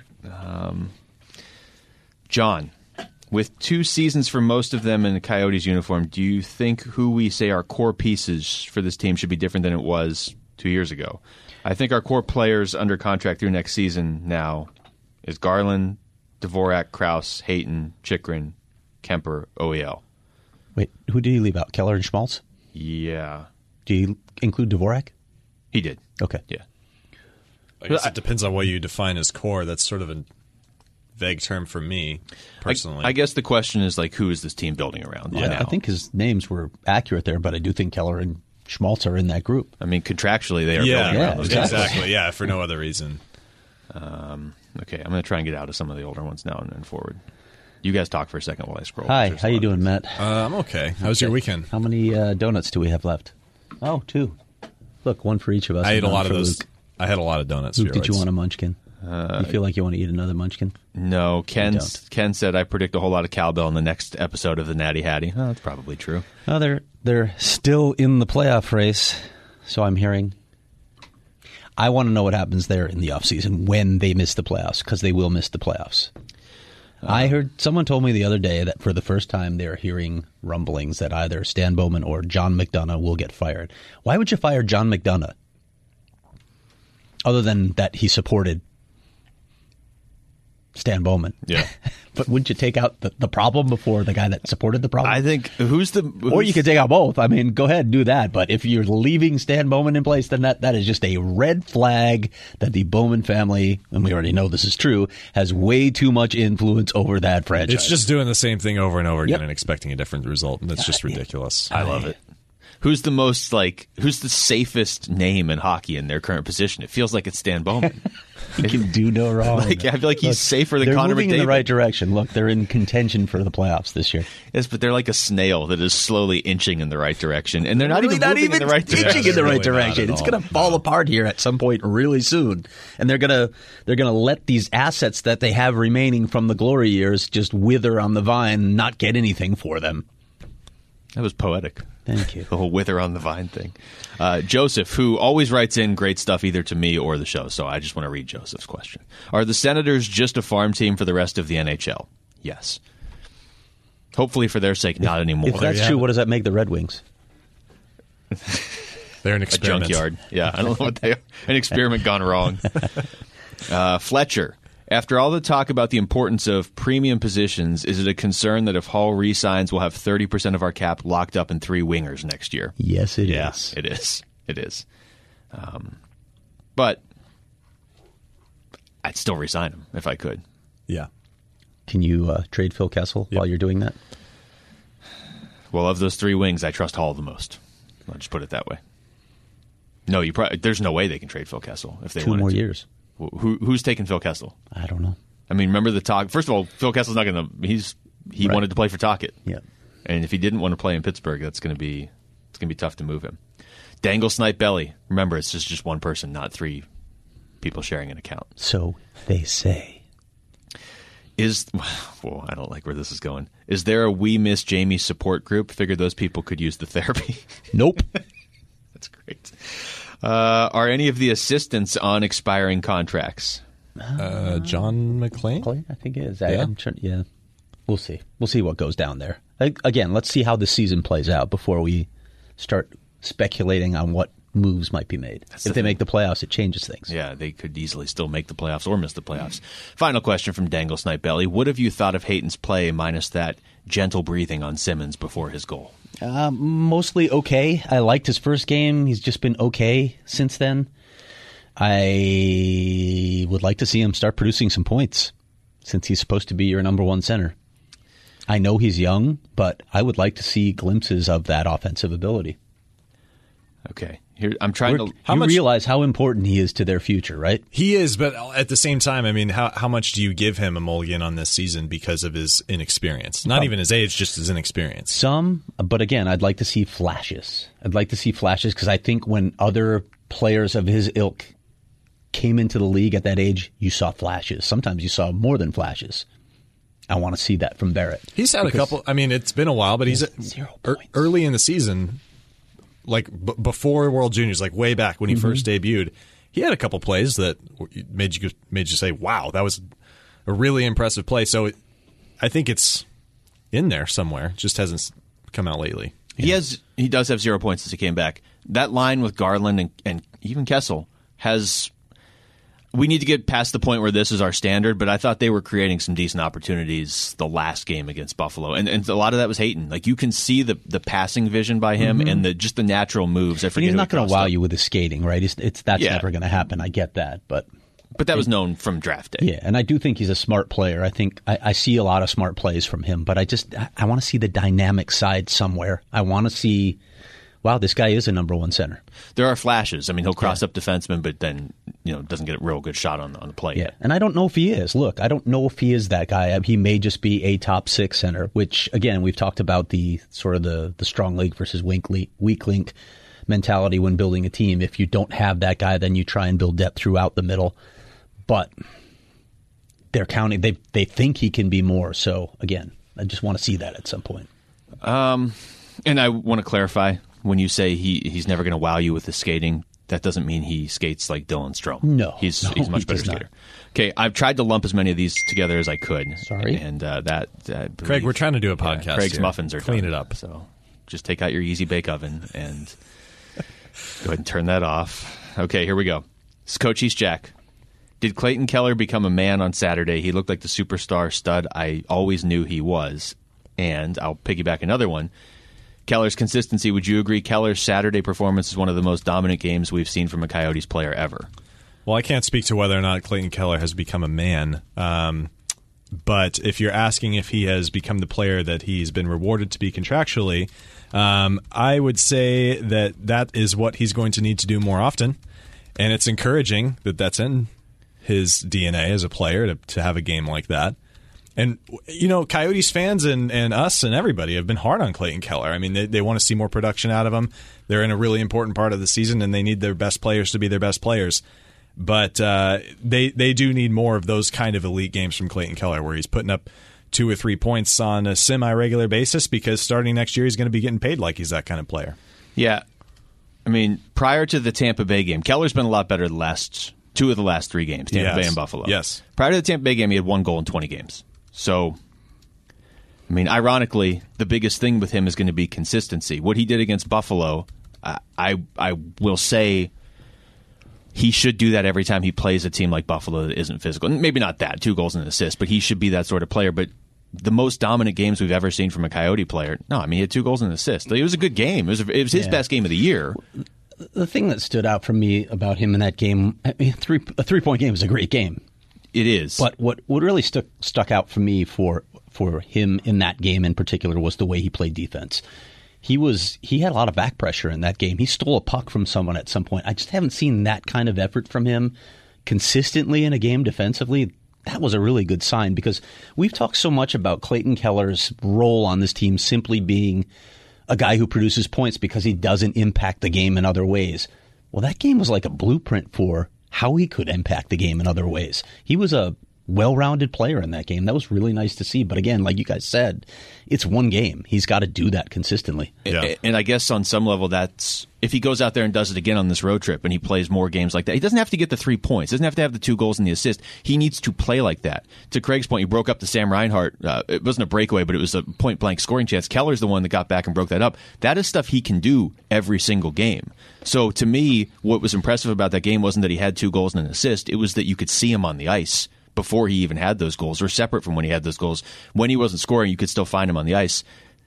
John, with two seasons for most of them in the Coyotes uniform, do you think who we say our core pieces for this team should be different than it was two years ago? I think our core players under contract through next season now is Garland, Dvorak, Krause, Hayton, Chikrin, Kemper, O E L. Wait, who did he leave out? Keller and Schmaltz? Yeah, Do you include Dvorak? he did. Okay. Yeah. I guess it depends on what you define as core. That's sort of a vague term for me, personally. I, I guess the question is, like, who is this team building around Yeah, now? I think his names were accurate there, but I do think Keller and Schmaltz are in that group. I mean, contractually, they are yeah, building around those guys. exactly. Yeah, for no other reason. Okay, I'm going to try and get out of some of the older ones now and then forward. You guys talk for a second while I scroll. Hi, There's how a you lot of doing, things. Matt? Uh, I'm okay. How was your weekend? How many uh, donuts do we have left? Oh, two. Look, one for each of us. I and ate a none lot of for those. Luke. I had a lot of donuts. Luke, did you steroids. want a munchkin? you feel like you want to eat another munchkin? No, Ken. don't. Ken said I predict a whole lot of cowbell in the next episode of the Natty Hattie. Oh, that's probably true. No, they're they're still in the playoff race, so I'm hearing. I want to know what happens there in the offseason when they miss the playoffs, because they will miss the playoffs. Uh, I heard someone told me the other day that for the first time they're hearing rumblings that either Stan Bowman or John McDonough will get fired. Why would you fire John McDonough? Other than that he supported Stan Bowman. Yeah. But wouldn't you take out the, the problem before the guy that supported the problem? I think who's the who's, Or you could take out both. I mean, go ahead and do that. But if you're leaving Stan Bowman in place, then that, that is just a red flag that the Bowman family, and we already know this is true, has way too much influence over that franchise. It's just doing the same thing over and over again Yep. and expecting a different result. And that's just ridiculous. I love it. Who's the most like? Who's the safest name in hockey in their current position? It feels like it's Stan Bowman. he can do no wrong. Like, I feel like he's safer than they're Connor moving McDavid. in the right direction. Look, they're in contention for the playoffs this year. Yes, but they're like a snail that is slowly inching in the right direction, and they're not Really even moving in the right inching direction. in the right Really not direction. at It's all. going to fall apart here at some point really soon, and they're going to they're going to let these assets that they have remaining from the glory years just wither on the vine, and not get anything for them. That was poetic. Thank you. The whole wither on the vine thing. Uh, Joseph, who always writes in great stuff either to me or the show, so I just want to read Joseph's question. Are the Senators just a farm team for the rest of the N H L? Yes. Hopefully for their sake, not anymore. If that's you true, have what does that make the Red Wings? They're an A experiment. junkyard. Yeah, I don't know what they are. An experiment gone wrong. Uh, Fletcher, after all the talk about the importance of premium positions, is it a concern that if Hall re-signs, we'll have thirty percent of our cap locked up in three wingers next year? Yes, it is. Yeah, it is. It is. Um, but I'd still re-sign him if I could. Yeah. Can you uh, trade Phil Kessel Yep. while you're doing that? Well, of those three wings, I trust Hall the most. I'll just put it that way. No, you. Pro- there's no way they can trade Phil Kessel if they Two wanted more to. years. Wh- Who, who's taking Phil Kessel? I don't know. I mean, remember the talk. First of all, Phil Kessel's not going to. He's he Right. wanted to play for Tocchet. Yeah. And if he didn't want to play in Pittsburgh, that's going to be it's going to be tough to move him. Dangle Snipe Belly. Remember, it's just just one person, not three people sharing an account. So they say. Is well, I don't like where this is going. Is there a We Miss Jamie support group? Figured those people could use the therapy. Nope. That's great. Uh, are any of the assistants on expiring contracts? Uh, John McClain? Play, I think it is. I, Yeah. I'm trying, yeah. We'll see. We'll see what goes down there. I, again, let's see how the season plays out before we start speculating on what moves might be made. That's if the they thing. make the playoffs, it changes things. Yeah, they could easily still make the playoffs or miss the playoffs. Final question from Dangle Snipe Belly. What have you thought of Hayton's play minus that gentle breathing on Simmons before his goal? Uh, mostly okay. I liked his first game. He's just been okay since then. I would like to see him start producing some points since he's supposed to be your number one center. I know he's young, but I would like to see glimpses of that offensive ability. Okay, here I'm trying We're, to. How you much- realize how important he is to their future, right? He is, but at the same time, I mean, how how much do you give him a mulligan on this season because of his inexperience? Not even his age, just his inexperience. Some, but again, I'd like to see flashes. I'd like to see flashes because I think when other players of his ilk came into the league at that age, you saw flashes. Sometimes you saw more than flashes. I want to see that from Barrett. He's had Because- a couple. I mean, it's been a while, but he's Zero er, points. early in the season, like b- before World Juniors, like way back when he Mm-hmm. first debuted. He had a couple plays that made you made you say, "Wow, that was a really impressive play." So it, I think it's in there somewhere. Just hasn't come out lately. He has. He does have zero points since he came back. That line with Garland and, and even Kessel has. We need to get past the point where this is our standard, but I thought they were creating some decent opportunities the last game against Buffalo, and, and a lot of that was Hayton. Like you can see the the passing vision by him and the just the natural moves. I And forget. he's who not he going to crossed wow up. you with his skating, right? It's, it's that's Yeah. never going to happen. I get that, but But that was known from draft day. yeah, and I do think he's a smart player. I think I, I see a lot of smart plays from him, but I just I, I want to see the dynamic side somewhere. I want to see, wow, this guy is a number one center. There are flashes. I mean, he'll cross up defensemen, but then you know doesn't get a real good shot on on the play. Yeah, and I don't know if he is. Look, I don't know if he is that guy. He may just be a top six center, which again we've talked about the sort of the the strong link versus weak link, weak link mentality when building a team. If you don't have that guy, then you try and build depth throughout the middle. But they're counting. They they think he can be more. So again, I just want to see that at some point. And I want to clarify, when you say he, he's never going to wow you with his skating, that doesn't mean he skates like Dylan Strome. No, He's, no, he's a much he better does not. skater. Okay, I've tried to lump as many of these together as I could. Sorry. And uh, that, I Craig, believe- we're trying to do a yeah, podcast. Craig's here. muffins are Clean done. it up. So just take out your Easy Bake Oven and go ahead and turn that off. Okay, here we go. This is Coach East Jack. Did Clayton Keller become a man on Saturday? He looked like the superstar stud I always knew he was. And I'll piggyback another one. Keller's consistency. Would you agree Keller's Saturday performance is one of the most dominant games we've seen from a Coyotes player ever? Well, I can't speak to whether or not Clayton Keller has become a man. Um, but if you're asking if he has become the player that he's been rewarded to be contractually, um, I would say that that is what he's going to need to do more often. And it's encouraging that that's in his D N A as a player to, to have a game like that. And, you know, Coyotes fans and, and us and everybody have been hard on Clayton Keller. I mean, they, they want to see more production out of him. They're in a really important part of the season, and they need their best players to be their best players. But uh, they they do need more of those kind of elite games from Clayton Keller, where he's putting up two or three points on a semi-regular basis, because starting next year he's going to be getting paid like he's that kind of player. Yeah. I mean, prior to the Tampa Bay game, Keller's been a lot better the last two of the last three games, Tampa Yes. Bay and Buffalo. Yes. Prior to the Tampa Bay game, he had one goal in twenty games. So, I mean, ironically, the biggest thing with him is going to be consistency. What he did against Buffalo, I, I I will say he should do that every time he plays a team like Buffalo that isn't physical. Maybe not that, two goals and an assist, but he should be that sort of player. But the most dominant games we've ever seen from a Coyote player, no, I mean, he had two goals and an assist. It was a good game. It was, it was his Yeah. best game of the year. The thing that stood out for me about him in that game, I mean, three, a three-point game is a great game. It is. But what, what really stuck stuck out for me for for him in that game in particular was the way he played defense. He was he had a lot of back pressure in that game. He stole a puck from someone at some point. I just haven't seen that kind of effort from him consistently in a game defensively. That was a really good sign, because we've talked so much about Clayton Keller's role on this team simply being a guy who produces points because he doesn't impact the game in other ways. Well, that game was like a blueprint for how he could impact the game in other ways. He was a well-rounded player in that game. That was really nice to see. But again, like you guys said, it's one game. He's got to do that consistently. Yeah. And I guess on some level, that's if he goes out there and does it again on this road trip and he plays more games like that, he doesn't have to get the three points. Doesn't have to have the two goals and the assist. He needs to play like that. To Craig's point, he broke up the Sam Reinhart. Uh, it wasn't a breakaway, but it was a point-blank scoring chance. Keller's the one that got back and broke that up. That is stuff he can do every single game. So to me, what was impressive about that game wasn't that he had two goals and an assist. It was that you could see him on the ice before he even had those goals, or separate from when he had those goals. When he wasn't scoring, you could still find him on the ice.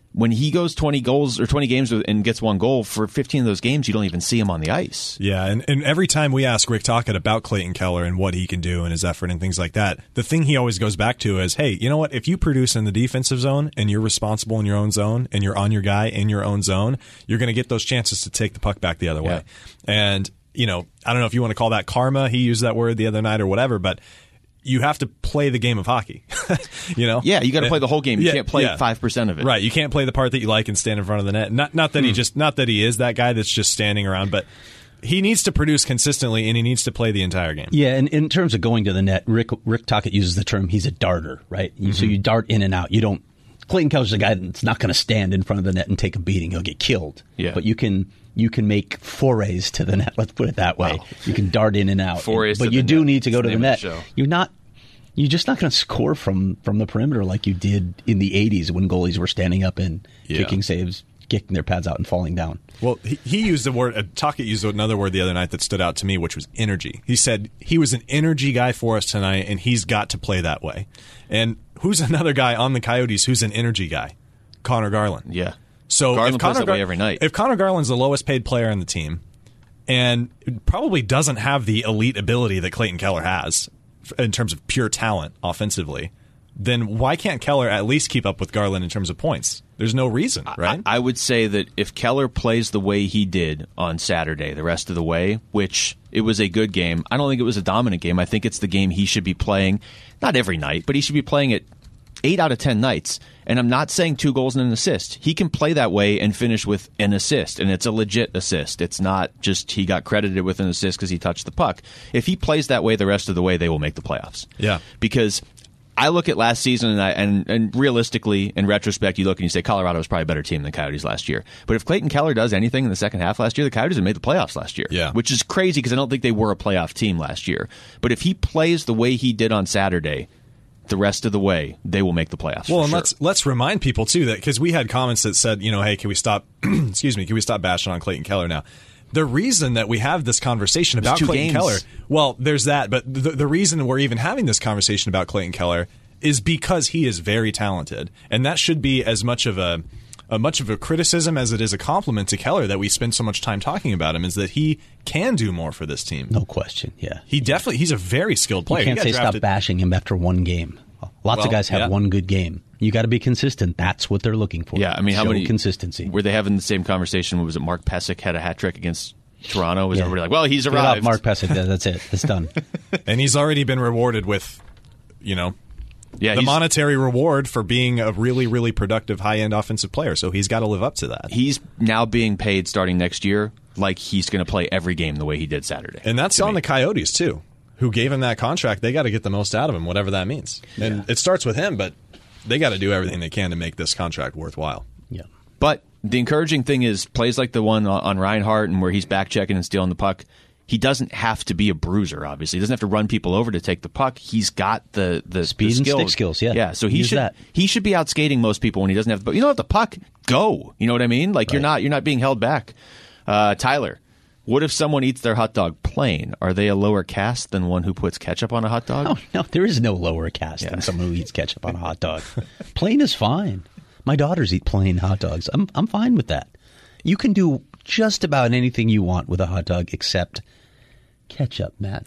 when he goes twenty goals or twenty games and gets one goal, for fifteen of those games, you don't even see him on the ice. Yeah, and, and every time we ask Rick Tocchet about Clayton Keller and what he can do and his effort and things like that, the thing he always goes back to is, hey, you know what? If you produce in the defensive zone and you're responsible in your own zone and you're on your guy in your own zone, you're going to get those chances to take the puck back the other way. Yeah. And, you know, I don't know if you want to call that karma. He used that word the other night or whatever, but you have to play the game of hockey. you know? Yeah, you got to play the whole game. You Yeah, can't play yeah. five percent of it. Right. You can't play the part that you like and stand in front of the net. Not not that he just not that he is that guy that's just standing around, but he needs to produce consistently and he needs to play the entire game. Yeah, and in terms of going to the net, Rick Rick Tocchet uses the term he's a darter, right? Mm-hmm. So you dart in and out. You don't Clayton Keller's a guy that's not going to stand in front of the net and take a beating. He'll get killed. Yeah. But you can you can make forays to the net, let's put it that way. Wow. You can dart in and out. Forays but to you the do net. need to go That's to the the name net. of the show. You're not You're just not going to score from, from the perimeter like you did in the eighties when goalies were standing up and Yeah. kicking saves, kicking their pads out and falling down. Well, he, he used the word, uh, Tocchet used another word the other night that stood out to me, which was energy. He said he was an energy guy for us tonight, and he's got to play that way. And who's another guy on the Coyotes who's an energy guy? Connor Garland. Yeah. So Garland if plays Connor that way every night. If Connor Garland's the lowest paid player on the team and probably doesn't have the elite ability that Clayton Keller has in terms of pure talent offensively, then why can't Keller at least keep up with Garland in terms of points? There's no reason, right? I, I would say that if Keller plays the way he did on Saturday, the rest of the way, which it was a good game, I don't think it was a dominant game. I think it's the game he should be playing, not every night, but he should be playing it eight out of ten nights. And I'm not saying two goals and an assist. He can play that way and finish with an assist, and it's a legit assist. It's not just he got credited with an assist because he touched the puck. If he plays that way the rest of the way, they will make the playoffs. Yeah. Because I look at last season, and, I, and and realistically, in retrospect, you look and you say Colorado was probably a better team than the Coyotes last year. But if Clayton Keller does anything in the second half last year, the Coyotes have made the playoffs last year. Yeah. Which is crazy because I don't think they were a playoff team last year. But if he plays the way he did on Saturday, the rest of the way, they will make the playoffs. Well, for and sure. let's let's remind people too that because we had comments that said, you know, hey, can we stop? excuse me, can we stop bashing on Clayton Keller now? The reason that we have this conversation about two Clayton games. Keller, well, there's that, but the, the reason we're even having this conversation about Clayton Keller is because he is very talented, and that should be as much of a, a much of a criticism as it is a compliment to Keller that we spend so much time talking about him. Is that he can do more for this team? No question, yeah. He definitely he's a very skilled player. You can't He say got stop drafted- bashing him after one game. Lots Well, of guys have yeah. one good game. You got to be consistent. That's what they're looking for. Yeah, I mean, how Show many consistency? Were they having the same conversation? Was it Mark Pesic had a hat trick against Toronto? Was Yeah. everybody like, well, he's Get arrived? out Mark Pesic. That's it. It's done. and he's already been rewarded with, you know, yeah, the he's- monetary reward for being a really, really productive high-end offensive player. So he's got to live up to that. he's now being paid starting next year like he's going to play every game the way he did Saturday. And that's to on me. the Coyotes, too, who gave him that contract. They got to get the most out of him, whatever that means. And it starts with him, but they got to do everything they can to make this contract worthwhile. Yeah. But the encouraging thing is plays like the one on, on Reinhardt and where he's back checking and stealing the puck. He doesn't have to be a bruiser, obviously. He doesn't have to run people over to take the puck. He's got the the Speed the and skills. stick skills, yeah. Yeah, so he Use should that. he should be out skating most people when he doesn't have the puck. You don't have the puck, go. You know what I mean? Like you're Right. not you're not being held back. Uh, Tyler, what if someone eats their hot dog plain? Are they a lower caste than one who puts ketchup on a hot dog? Oh, no, there is no lower caste Yeah. than someone who eats ketchup on a hot dog. Plain is fine. My daughters eat plain hot dogs. I'm I'm fine with that. You can do just about anything you want with a hot dog except ketchup, Matt.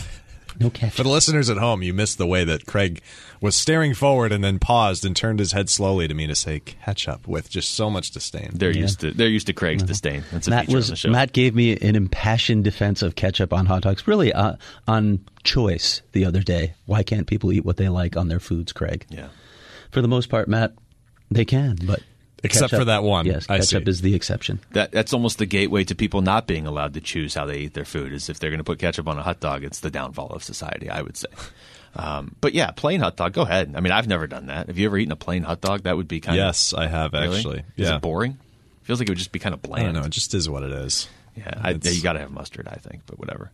No ketchup. For the listeners at home, you missed the way that Craig was staring forward and then paused and turned his head slowly to me to say ketchup with just so much disdain. They're used to they're used to Craig's disdain. That's a Matt feature was of the show. Matt gave me an impassioned defense of ketchup on hot dogs, really uh, on choice the other day. Why can't people eat what they like on their foods, Craig? Yeah. For the most part, Matt, they can, but Except ketchup- for that one. Yes, I ketchup see. is the exception. That that's almost the gateway to people not being allowed to choose how they eat their food. Is if they're going to put ketchup on a hot dog, it's the downfall of society, I would say. Um, but yeah, plain hot dog. Go ahead. I mean, I've never done that. Have you ever eaten a plain hot dog? That would be kind Yes, I have of really? actually. Is Yeah. it boring? Feels like it would just be kind of I bland. don't know. It just is what it is. Yeah, I, It's- you got to have mustard, I think, but whatever.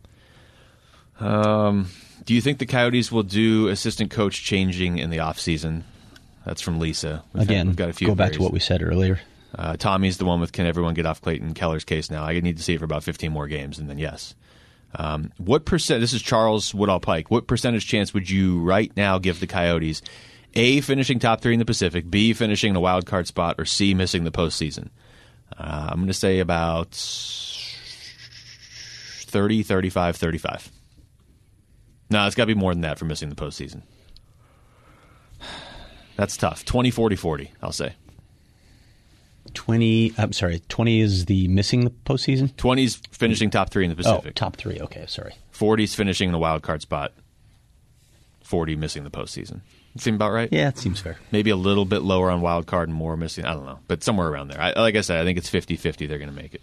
Um, do you think the Coyotes will do assistant coach changing in the offseason? That's from Lisa. We've had- Again, we've got a few go back to varies. what we said earlier. Uh, Tommy's the one with can everyone get off Clayton Keller's case now? I need to see it for about fifteen more games, and then yes. Um, what percent? This is Charles Woodall Pike. What percentage chance would you right now give the Coyotes A, finishing top three in the Pacific, B, finishing in a wild card spot, or C, missing the postseason. Uh, I'm going to say about thirty, thirty-five, thirty-five. No, it's got to be more than that for missing the postseason. That's tough. twenty, forty, forty, I'll say. twenty, I'm sorry, twenty is the missing the postseason? twenty's finishing top three in the Pacific. Oh, top three, okay, sorry. forty's finishing in a wild card spot. forty missing the postseason. Seem about right? Yeah, it seems fair. Maybe a little bit lower on wild card and more missing. I don't know. But somewhere around there. I, like I said, I think it's fifty-fifty they're going to make it.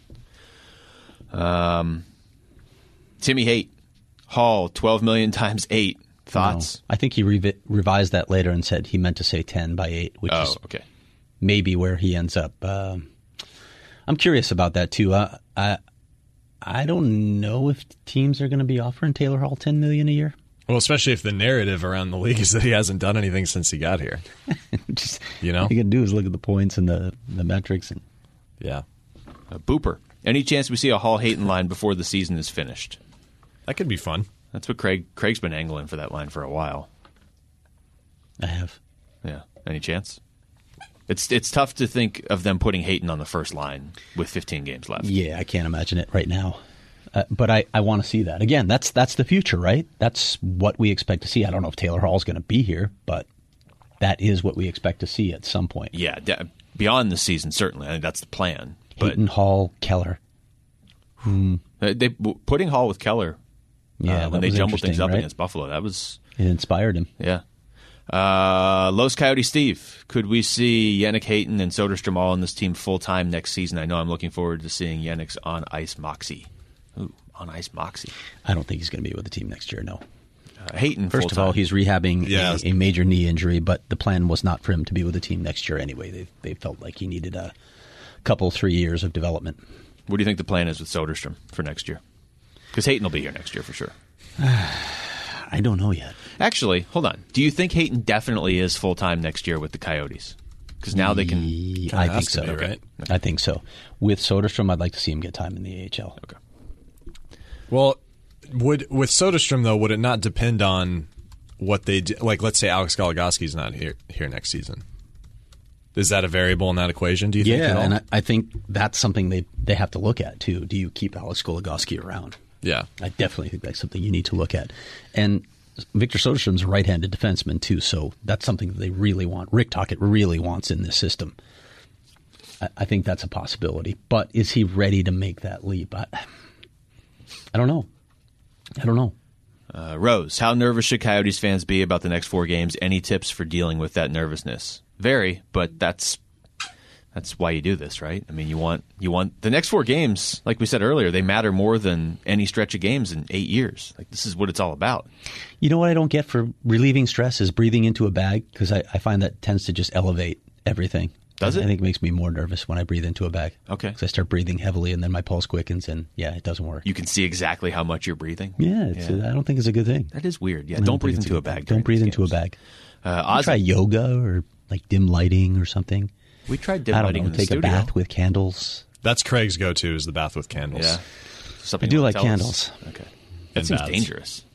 Um, Timmy Haight. Hall, twelve million times eight. Thoughts? No, I think he revi- revised that later and said he meant to say ten by eight, which oh, is okay. maybe where he ends up. Um, I'm curious about that, too. Uh, I I don't know if teams are going to be offering Taylor Hall ten million dollars a year. Well, especially if the narrative around the league is that he hasn't done anything since he got here. Just, you know? All you can do is look at the points and the, the metrics. And yeah. A Booper. Any chance we see a Hall Hayton line before the season is finished? That could be fun. That's what Craig Craig's been angling for that line for a while. I have. Yeah. Any chance? It's it's tough to think of them putting Hayton on the first line with fifteen games left. Yeah, I can't imagine it right now. Uh, but I, I want to see that. Again, that's that's the future, right? That's what we expect to see. I don't know if Taylor Hall's going to be here, but that is what we expect to see at some point. Yeah, de- beyond the season, certainly. I think that's the plan. Hayton, but, Hall, Keller. Hmm. They, putting Hall with Keller yeah, uh, when they jumbled things up right? against Buffalo, that was... It inspired him. Yeah. Uh, Los Coyotes Steve, could we see Yannick Hayton and Soderstrom all on this team full-time next season? I know I'm looking forward to seeing Yannick's on-ice moxie. Ooh, on-ice moxie. I don't think he's going to be with the team next year, no. Uh, Hayton, First full-time. of all, he's rehabbing yeah. a, a major knee injury, but the plan was not for him to be with the team next year anyway. They, they felt like he needed a couple, three years of development. What do you think the plan is with Soderstrom for next year? Because Hayton will be here next year for sure. I don't know yet. Actually, hold on. Do you think Hayton definitely is full-time next year with the Coyotes? Because now they can... I think so. Be, right? I think so. With Soderstrom, I'd like to see him get time in the A H L. Okay. Well, would with Soderstrom, though, would it not depend on what they do? Like, let's say Alex Goligoski's not here here next season. Is that a variable in that equation, do you think? Yeah, and I, I think that's something they, they have to look at, too. Do you keep Alex Goligoski around? Yeah. I definitely think that's something you need to look at. And Victor Soderstrom's a right-handed defenseman, too, so that's something that they really want. Rick Tocchet really wants in this system. I, I think that's a possibility. But is he ready to make that leap? I, I don't know. I don't know. Uh, Rose, how nervous should Coyotes fans be about the next four games? Any tips for dealing with that nervousness? Very, but that's that's why you do this, right? I mean, you want you want the next four games, like we said earlier, they matter more than any stretch of games in eight years. Like, this is what it's all about. You know what I don't get for relieving stress is breathing into a bag, because I, I find that tends to just elevate everything. Does it? I think it makes me more nervous when I breathe into a bag. Okay. Because I start breathing heavily and then my pulse quickens and, yeah, it doesn't work. You can see exactly how much you're breathing. Yeah, it's, Yeah. I don't think it's a good thing. That is weird. Yeah, I don't breathe think it's into a good thing. bag. Don't during breathe these into a games. bag. Uh, Try Ozzy, yoga or like dim lighting or something. we tried dim I don't lighting know. in the Take studio. a bath with candles. That's Craig's go-to is the bath with candles. Yeah. Something I do you wanna like tell us? candles. Okay. That And seems baths. dangerous.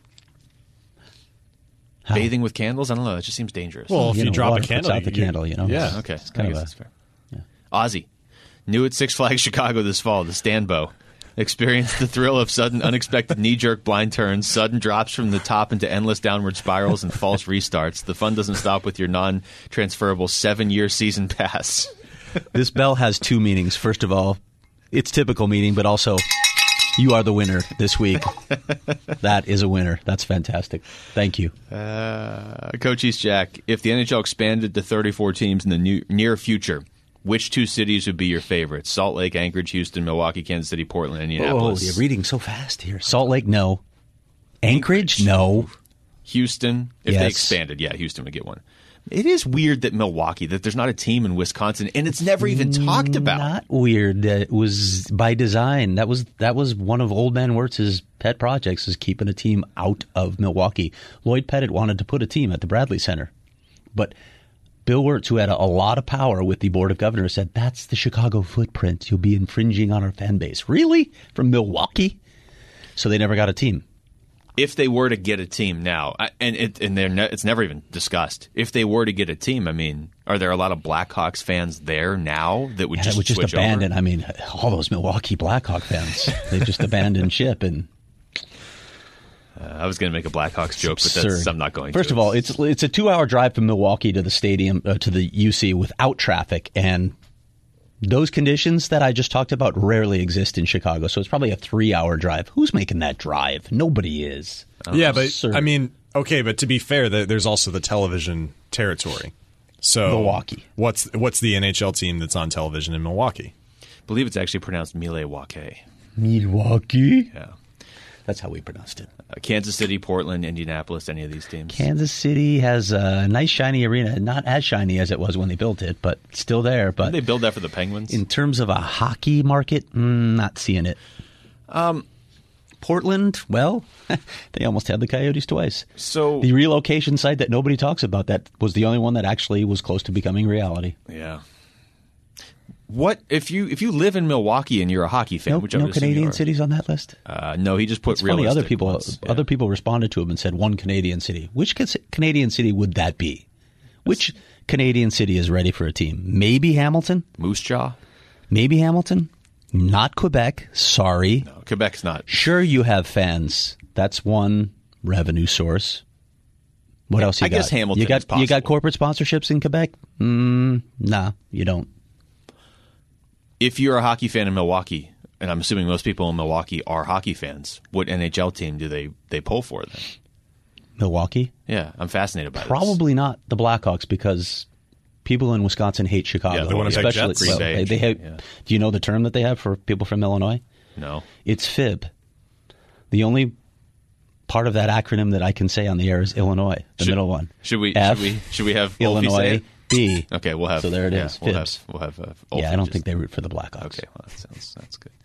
How? Bathing with candles? I don't know. That just seems dangerous. Well, if You you, know, drop a water puts candle, out the you- candle, you know? Yeah. okay. It's kind I of guess a- that's fair. yeah. Ozzy, new at Six Flags Chicago this fall, the Stanbo. Experience the thrill of sudden, unexpected knee-jerk blind turns, sudden drops from the top into endless downward spirals and false restarts. The fun doesn't stop with your non-transferable seven-year season pass. This bell has two meanings. First of all, its typical meaning, but also you are the winner this week. That is a winner. That's fantastic. Thank you. Uh, Coach East Jack, if the N H L expanded to thirty-four teams in the new, near future, which two cities would be your favorites? Salt Lake, Anchorage, Houston, Milwaukee, Kansas City, Portland, Oh, Indianapolis. you're reading so fast here. Salt Lake, no. Anchorage, no. Houston, if Yes. they expanded, yeah, Houston would get one. It is weird that Milwaukee, that there's not a team in Wisconsin, and it's never even talked about. Not weird. Uh, It was by design. That was that was one of Old Man Wirtz's pet projects, is keeping a team out of Milwaukee. Lloyd Pettit wanted to put a team at the Bradley Center, but Bill Wirtz, who had a, a lot of power with the Board of Governors, said, that's the Chicago footprint. You'll be infringing on our fan base. Really? From Milwaukee? So they never got a team. if they were to get a team now, I- and it, and they're ne- it's never even discussed. If they were to get a team, I mean, are there a lot of Blackhawks fans there now that would Yeah, just that would just switch abandon. over? I mean, all those Milwaukee Blackhawk fans, they just abandoned ship and. Uh, I was going to make a Blackhawks joke, but Absurd. that's, I'm not going First to. of all, it's it's a two hour drive from Milwaukee to the stadium uh, to the U C without traffic, and those conditions that I just talked about rarely exist in Chicago. So it's probably a three hour drive. Who's making that drive? Nobody is. Yeah, but Absurd. I mean, okay, but to be fair, there- there's also the television territory. So Milwaukee. What's what's the N H L team that's on television in Milwaukee? I believe it's actually pronounced Milwaukee. Milwaukee. Yeah. That's how we pronounced it. Uh, Kansas City, Portland, Indianapolis, any of these teams? Kansas City has a nice shiny arena, not as shiny as it was when they built it, but still there. But Did they build that for the Penguins? in terms of a hockey market, mm, not seeing it. Um, Portland, well, they almost had the Coyotes twice. so The relocation site that nobody talks about, that was the only one that actually was close to becoming reality. yeah. What if you if you live in Milwaukee and you're a hockey fan? No, which I no would assume you Canadian are. cities on that list. Uh, no, he just put It's funny. realistic Other people, ones. Yeah. other people responded to him and said one Canadian city. Which cas- Canadian city would that be? Which Canadian city is ready for a team? Maybe Hamilton. Moose Jaw. Maybe Hamilton. Not Quebec. Sorry. No, Quebec's not. Sure, you have fans. That's one revenue source. What else you I got? guess Hamilton You got is you got possible. corporate sponsorships in Quebec? Mm, nah, you don't. If you're a hockey fan in Milwaukee, and I'm assuming most people in Milwaukee are hockey fans, what N H L team do they they pull for then? Milwaukee? Yeah, I'm fascinated by this. Probably not the Blackhawks because people in Wisconsin hate Chicago. Yeah, the Winnipeg especially Jets. well, Green Bay, they, they have, yeah. Do you know the term that they have for people from Illinois? No. It's F I B. The only part of that acronym that I can say on the air is Illinois, the Should- middle one. Should we? F, should we? Should we have Wolfie say Illinois, it? B. Okay, we'll have. So there it yeah, is, We'll have. Fibs. We'll have. Uh, Yeah, Wolfie I don't just- think they root for the Blackhawks. Okay, well, that sounds that's good.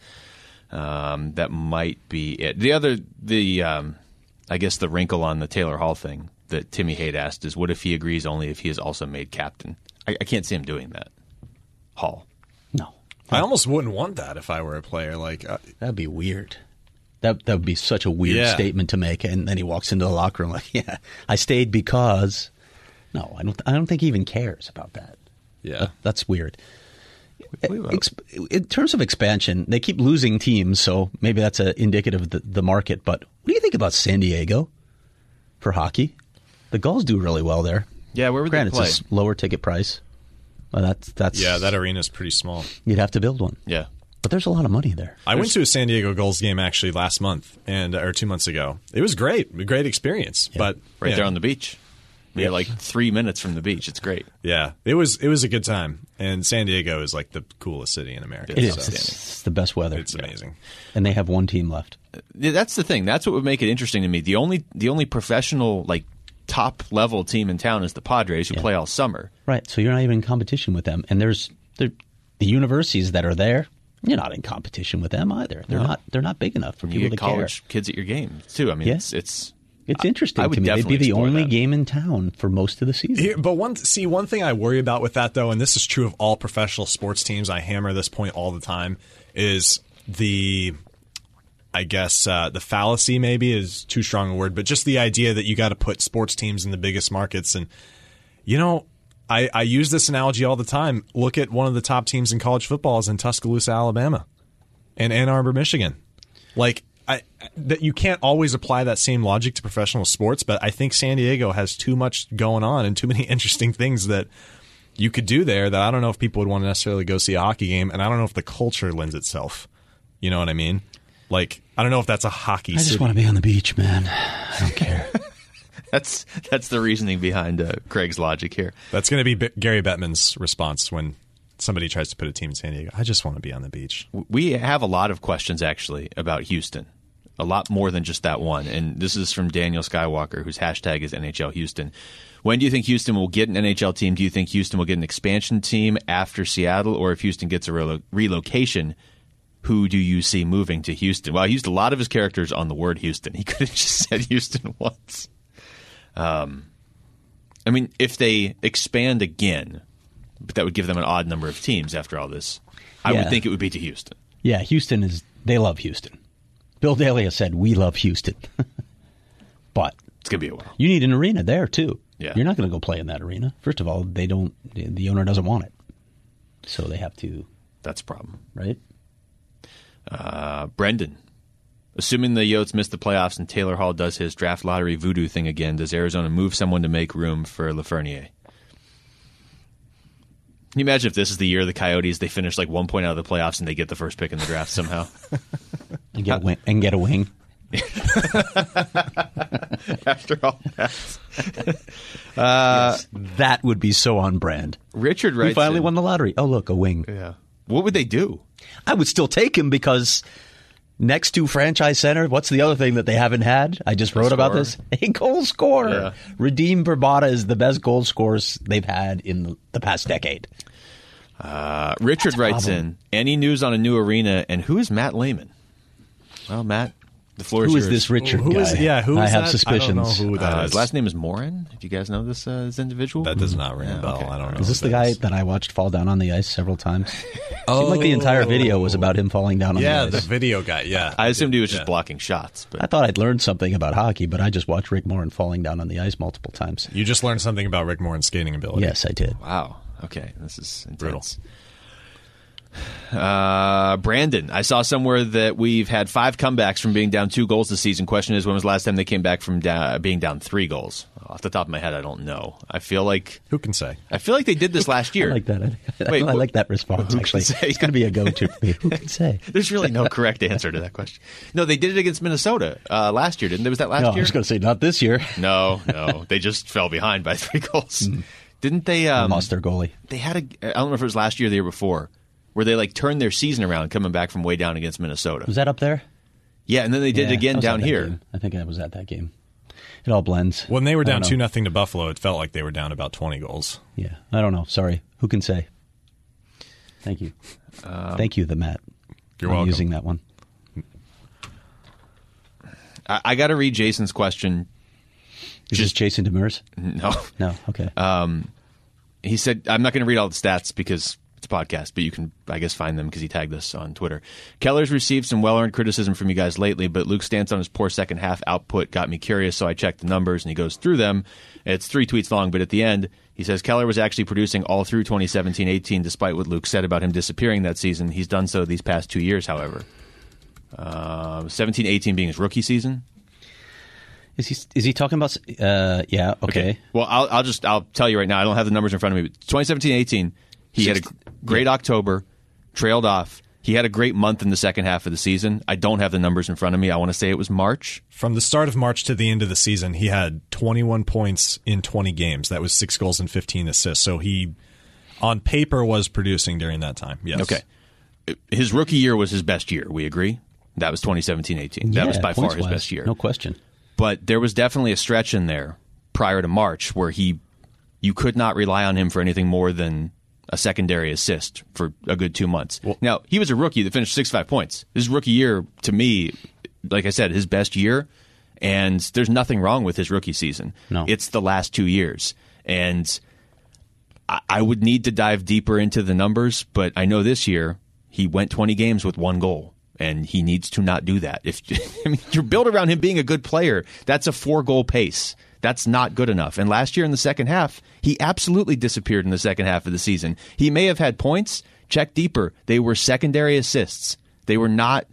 Um, that might be it. The other, the um, I guess the wrinkle on the Taylor Hall thing that Timmy Haight asked is, what if he agrees only if he is also made captain? I, I can't see him doing that. Hall. No. I almost wouldn't want that if I were a player. Like, uh, That'd be weird. That that would be such a weird Yeah. statement to make, and then he walks into the locker room like, "Yeah, I stayed because." No, I don't. I don't think he even cares about that. yeah. That- that's weird. We will. Ex- in terms of expansion, they keep losing teams, so maybe that's a indicative of the, the market. But what do you think about San Diego for hockey? The Gulls do really well there. Yeah, where would Granted, they play? it's a s- lower ticket price. Well, that's that's Yeah, that arena's pretty small. you'd have to build one, Yeah. but there's a lot of money there. I went to a San Diego Gulls game actually last month and or two months ago. It was great, a great experience. But Right yeah, there on the beach. We're like three minutes from the beach. It's great. yeah, it was it was a good time. And San Diego is like the coolest city in America. It is. so It's, it's the best weather, It's amazing. and they have one team left. Yeah, that's the thing. That's what would make it interesting to me. The only the only professional like top level team in town is the Padres, who Yeah. play all summer. Right. So you're not even in competition with them. And there's there, the universities that are there. You're not in competition with them either. They're No. not. They're not big enough for You people get to care. college kids at your games too. I mean, Yeah. it's it's It's interesting I would to me. They'd definitely be the explore only that. game in town for most of the season. Here, but one see one thing I worry about with that though, and this is true of all professional sports teams. I hammer this point all the time. Is the I guess uh, the fallacy maybe is too strong a word, but just the idea that you got to put sports teams in the biggest markets. And you know, I, I use this analogy all the time. Look at one of the top teams in college football is in Tuscaloosa, Alabama, and Ann Arbor, Michigan. Like. I, that you can't always apply that same logic to professional sports, but I think San Diego has too much going on and too many interesting things that you could do there that I don't know if people would want to necessarily go see a hockey game, and I don't know if the culture lends itself. You know what I mean? Like, I don't know if that's a hockey I just city. want to be on the beach, man. I don't care. that's that's the reasoning behind uh, Craig's logic here. That's going to be B- Gary Bettman's response when somebody tries to put a team in San Diego. I just want to be on the beach. We have a lot of questions actually about Houston. A lot more than just that one. And this is from Daniel Skywalker, whose hashtag is N H L Houston. When do you think Houston will get an N H L team? Do you think Houston will get an expansion team after Seattle? Or if Houston gets a relo- relocation, who do you see moving to Houston? Well, he used a lot of his characters on the word Houston. He could have just said Houston once. Um, I mean, if they expand again, but that would give them an odd number of teams after all this, I Yeah. would think it would be to Houston. Yeah, Houston is. They love Houston. Bill Daly has said, "We love Houston." But It's going to be a while. you need an arena there, too. Yeah. You're not going to go play in that arena. First of all, they don't. The owner doesn't want it. So they have to, That's a problem. right? Uh, Brendan, assuming the Yotes miss the playoffs and Taylor Hall does his draft lottery voodoo thing again, does Arizona move someone to make room for Lafreniere? Can you imagine if this is the year of the Coyotes, they finish like one point out of the playoffs and they get the first pick in the draft somehow? And get a wing. And get a wing. After all that. Yes, that would be so on brand. Richard writes We finally in- won the lottery. Oh, look, a wing. Yeah. What would they do? I would still take him because next to franchise center, what's the other thing that they haven't had? I just wrote about scorer. this. A goal scorer. Yeah. Radim Verbata is the best goal scorers they've had in the, the past decade. Uh, Richard writes in, any news on a new arena, and who is Matt Lehman? Well, Matt, the floor is Who yours. is this Richard Who guy? is? Yeah, who is I have that? suspicions. I don't know who that Uh, is. his last name is Morin. Do you guys know this, uh, this individual? That does not ring a Yeah, bell. okay. I don't know. Is this who the that guy is. that I watched fall down on the ice several times? Oh. Seemed like the entire video was about him falling down on Yeah, the the ice. video guy. Yeah, I assumed he was just Yeah. blocking shots. But I thought I'd learned something about hockey, but I just watched Rick Morin falling down on the ice multiple times. You just learned something about Rick Morin's skating ability. Yes, I did. Wow. Okay, this is intense. Uh, Brandon, I saw somewhere that we've had five comebacks from being down two goals this season. Question is, when was the last time they came back from da- being down three goals? Off the top of my head, I don't know. I feel like Who can say? I feel like they did this last year. I like that. I, Wait, I what- like that response, who can actually. say? It's going to be a go-to for me. Who can say? There's really no correct answer to that question. No, they did it against Minnesota uh, last year, didn't they? Was that last No, I year? was going to say not this year. No, no, they just fell behind by three goals. Didn't they? Um, Lost their goalie. They had a. I don't know if it was last year or the year before, where they like turned their season around, coming back from way down against Minnesota. Was that up there? Yeah, and then they did Yeah, it again I was down at that here. game. I think I was at that game. It all blends. When they were I don't down know. two nothing to Buffalo, it felt like they were down about twenty goals. Yeah, I don't know. Sorry. Who can say? Thank you. Thank you, the Matt. You're I'm welcome. using that one. I, I got to read Jason's question. Is this Jason Demers? No, No. Okay. he said I'm not going to read all the stats because it's a podcast, but you can, I guess, find them because he tagged us on Twitter. Keller's received some well-earned criticism from you guys lately, but Luke's stance on his poor second half output got me curious, so I checked the numbers, and he goes through them. It's three tweets long, but at the end, he says Keller was actually producing all through twenty seventeen eighteen, despite what Luke said about him disappearing that season. He's done so these past two years, however. Uh, seventeen eighteen being his rookie season. Is he is he talking about? Uh, yeah. Okay. Well, I'll, I'll just I'll tell you right now. I don't have the numbers in front of me. But twenty seventeen eighteen, he had a great October, trailed off. He had a great month in the second half of the season. I don't have the numbers in front of me. I want to say it was March. From the start of March to the end of the season, he had twenty-one points in twenty games. That was six goals and fifteen assists. So he, on paper, was producing during that time. Yes. Okay. His rookie year was his best year. We agree? That was twenty seventeen eighteen. That Yeah, was by far his points-wise, best year. No question. But there was definitely a stretch in there prior to March where he, you could not rely on him for anything more than a secondary assist for a good two months. Well, now, he was a rookie that finished sixty-five points. His rookie year, to me, like I said, his best year, and there's nothing wrong with his rookie season. No. It's the last two years. And I, I would need to dive deeper into the numbers, but I know this year he went twenty games with one goal. And he needs to not do that. If I mean, you're built around him being a good player, that's a four-goal pace. That's not good enough. And last year in the second half, he absolutely disappeared in the second half of the season. He may have had points. Check deeper. They were secondary assists. They were not.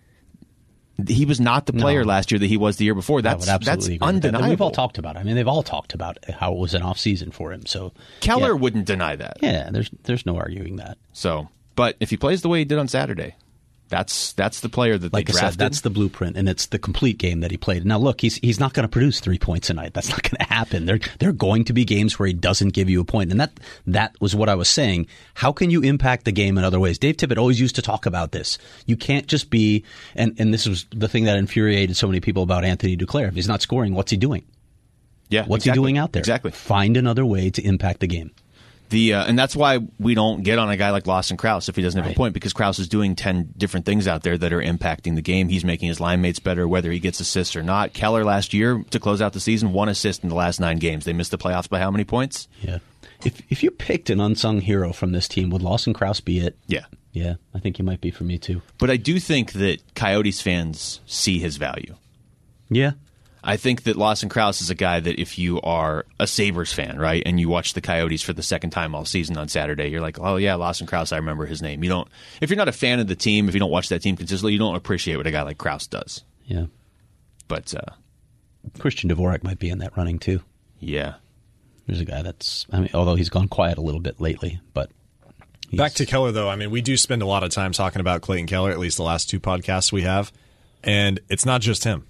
He was not the player No. last year that he was the year before. That's I would that's absolutely agree with that. undeniable. We've all talked about it. I mean, they've all talked about how it was an off season for him. So Keller yeah, wouldn't deny that. yeah, there's there's no arguing that. So, but if he plays the way he did on Saturday, that's that's the player that Like they I drafted. said, that's the blueprint, and it's the complete game that he played. Now, look, he's he's not going to produce three points a night. That's not going to happen. There there are going to be games where he doesn't give you a point, and that that was what I was saying. How can you impact the game in other ways? Dave Tippett always used to talk about this. You can't just be, and and this was the thing that infuriated so many people about Anthony Duclair. If he's not scoring, what's he doing? yeah, What's exactly. he doing out there? Exactly. Find another way to impact the game. The uh, and that's why we don't get on a guy like Lawson Krause if he doesn't have Right. a point, because Krause is doing ten different things out there that are impacting the game. He's making his line mates better, whether he gets assists or not. Keller last year, to close out the season, one assist in the last nine games. They missed the playoffs by how many points? Yeah. If if you picked an unsung hero from this team, would Lawson Krause be it? Yeah. Yeah, I think he might be for me too. But I do think that Coyotes fans see his value. Yeah. I think that Lawson Crouse is a guy that if you are a Sabres fan, right, and you watch the Coyotes for the second time all season on Saturday, you're like, oh, yeah, Lawson Crouse, I remember his name. You don't. If you're not a fan of the team, if you don't watch that team consistently, you don't appreciate what a guy like Crouse does. Yeah. But, uh, Christian Dvorak might be in that running, too. Yeah. There's a guy that's, I mean, although he's gone quiet a little bit lately, but. Back to Keller, though. I mean, we do spend a lot of time talking about Clayton Keller, at least the last two podcasts we have. And it's not just him,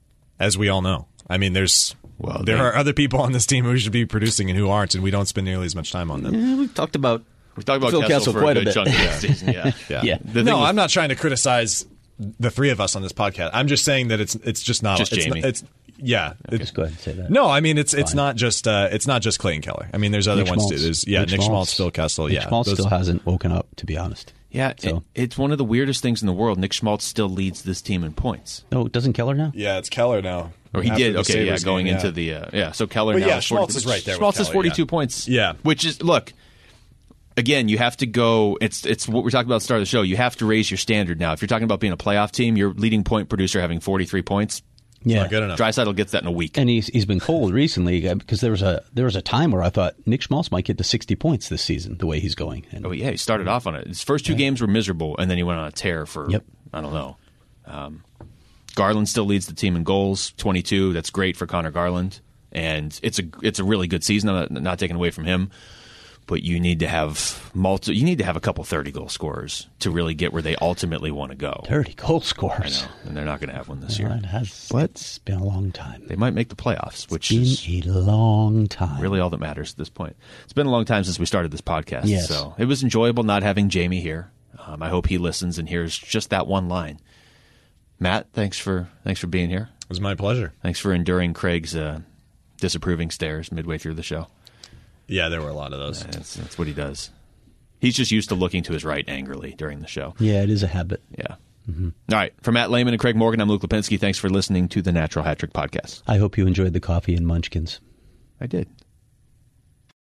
as we all know. I mean, there's well, there they, are other people on this team who should be producing and who aren't, and we don't spend nearly as much time on them. Yeah, we've talked about we've talked about Phil Kessel, Kessel for quite a, a good bit. chunk of the season. Yeah, yeah. yeah. No, was, I'm not trying to criticize the three of us on this podcast. I'm just saying that it's it's just not just it's Jamie. Not, it's yeah. Okay, it's, go ahead and say that. No, I mean it's Fine. it's not just uh, it's not just Clayton Keller. I mean, there's other Nick ones Schmaltz. too. There's yeah, Nick, Nick Schmaltz, Phil Kessel. Nick yeah, Schmaltz those, still hasn't woken up, to be honest. Yeah, so. it, it's one of the weirdest things in the world. Nick Schmaltz still leads this team in points. No, doesn't Keller now? Yeah, it's Keller now. Or he After did. the Okay, yeah, Sabres going game, into yeah. the uh, yeah. So Keller But now yeah, is forty, Schmaltz is right there with Schmaltz is Keller, forty-two yeah. points. Yeah. Which is look. Again, you have to go. It's it's what we're talking about at the start of the show. You have to raise your standard now. If you're talking about being a playoff team, your leading point producer having forty-three points. Yeah, not good enough. Draisaitl gets that in a week. And he's he's been cold recently uh, because there was a there was a time where I thought Nick Schmaltz might get to sixty points this season the way he's going. And, oh yeah, he started off on it. His first two yeah. games were miserable, and then he went on a tear for yep. I don't know. Um, Garland still leads the team in goals, twenty-two. That's great for Connor Garland, and it's a it's a really good season. I'm not, not taking away from him. But you need to have multi, You need to have a couple thirty goal scorers to really get where they ultimately want to go. thirty goal scorers. I know, and they're not going to have one this well, year. It has. But it's been a long time. They might make the playoffs, which it's been is a long time. Really, all that matters at this point. It's been a long time since we started this podcast, yes. so it was enjoyable not having Jamie here. Um, I hope he listens and hears just that one line. Matt, thanks for thanks for being here. It was my pleasure. Thanks for enduring Craig's uh, disapproving stares midway through the show. Yeah, there were a lot of those. That's, that's what he does. He's just used to looking to his right angrily during the show. Yeah, it is a habit. Yeah. Mm-hmm. All right. For Matt Lehman and Craig Morgan, I'm Luke Lipinski. Thanks for listening to the Natural Hat Trick Podcast. I hope you enjoyed the coffee and munchkins. I did.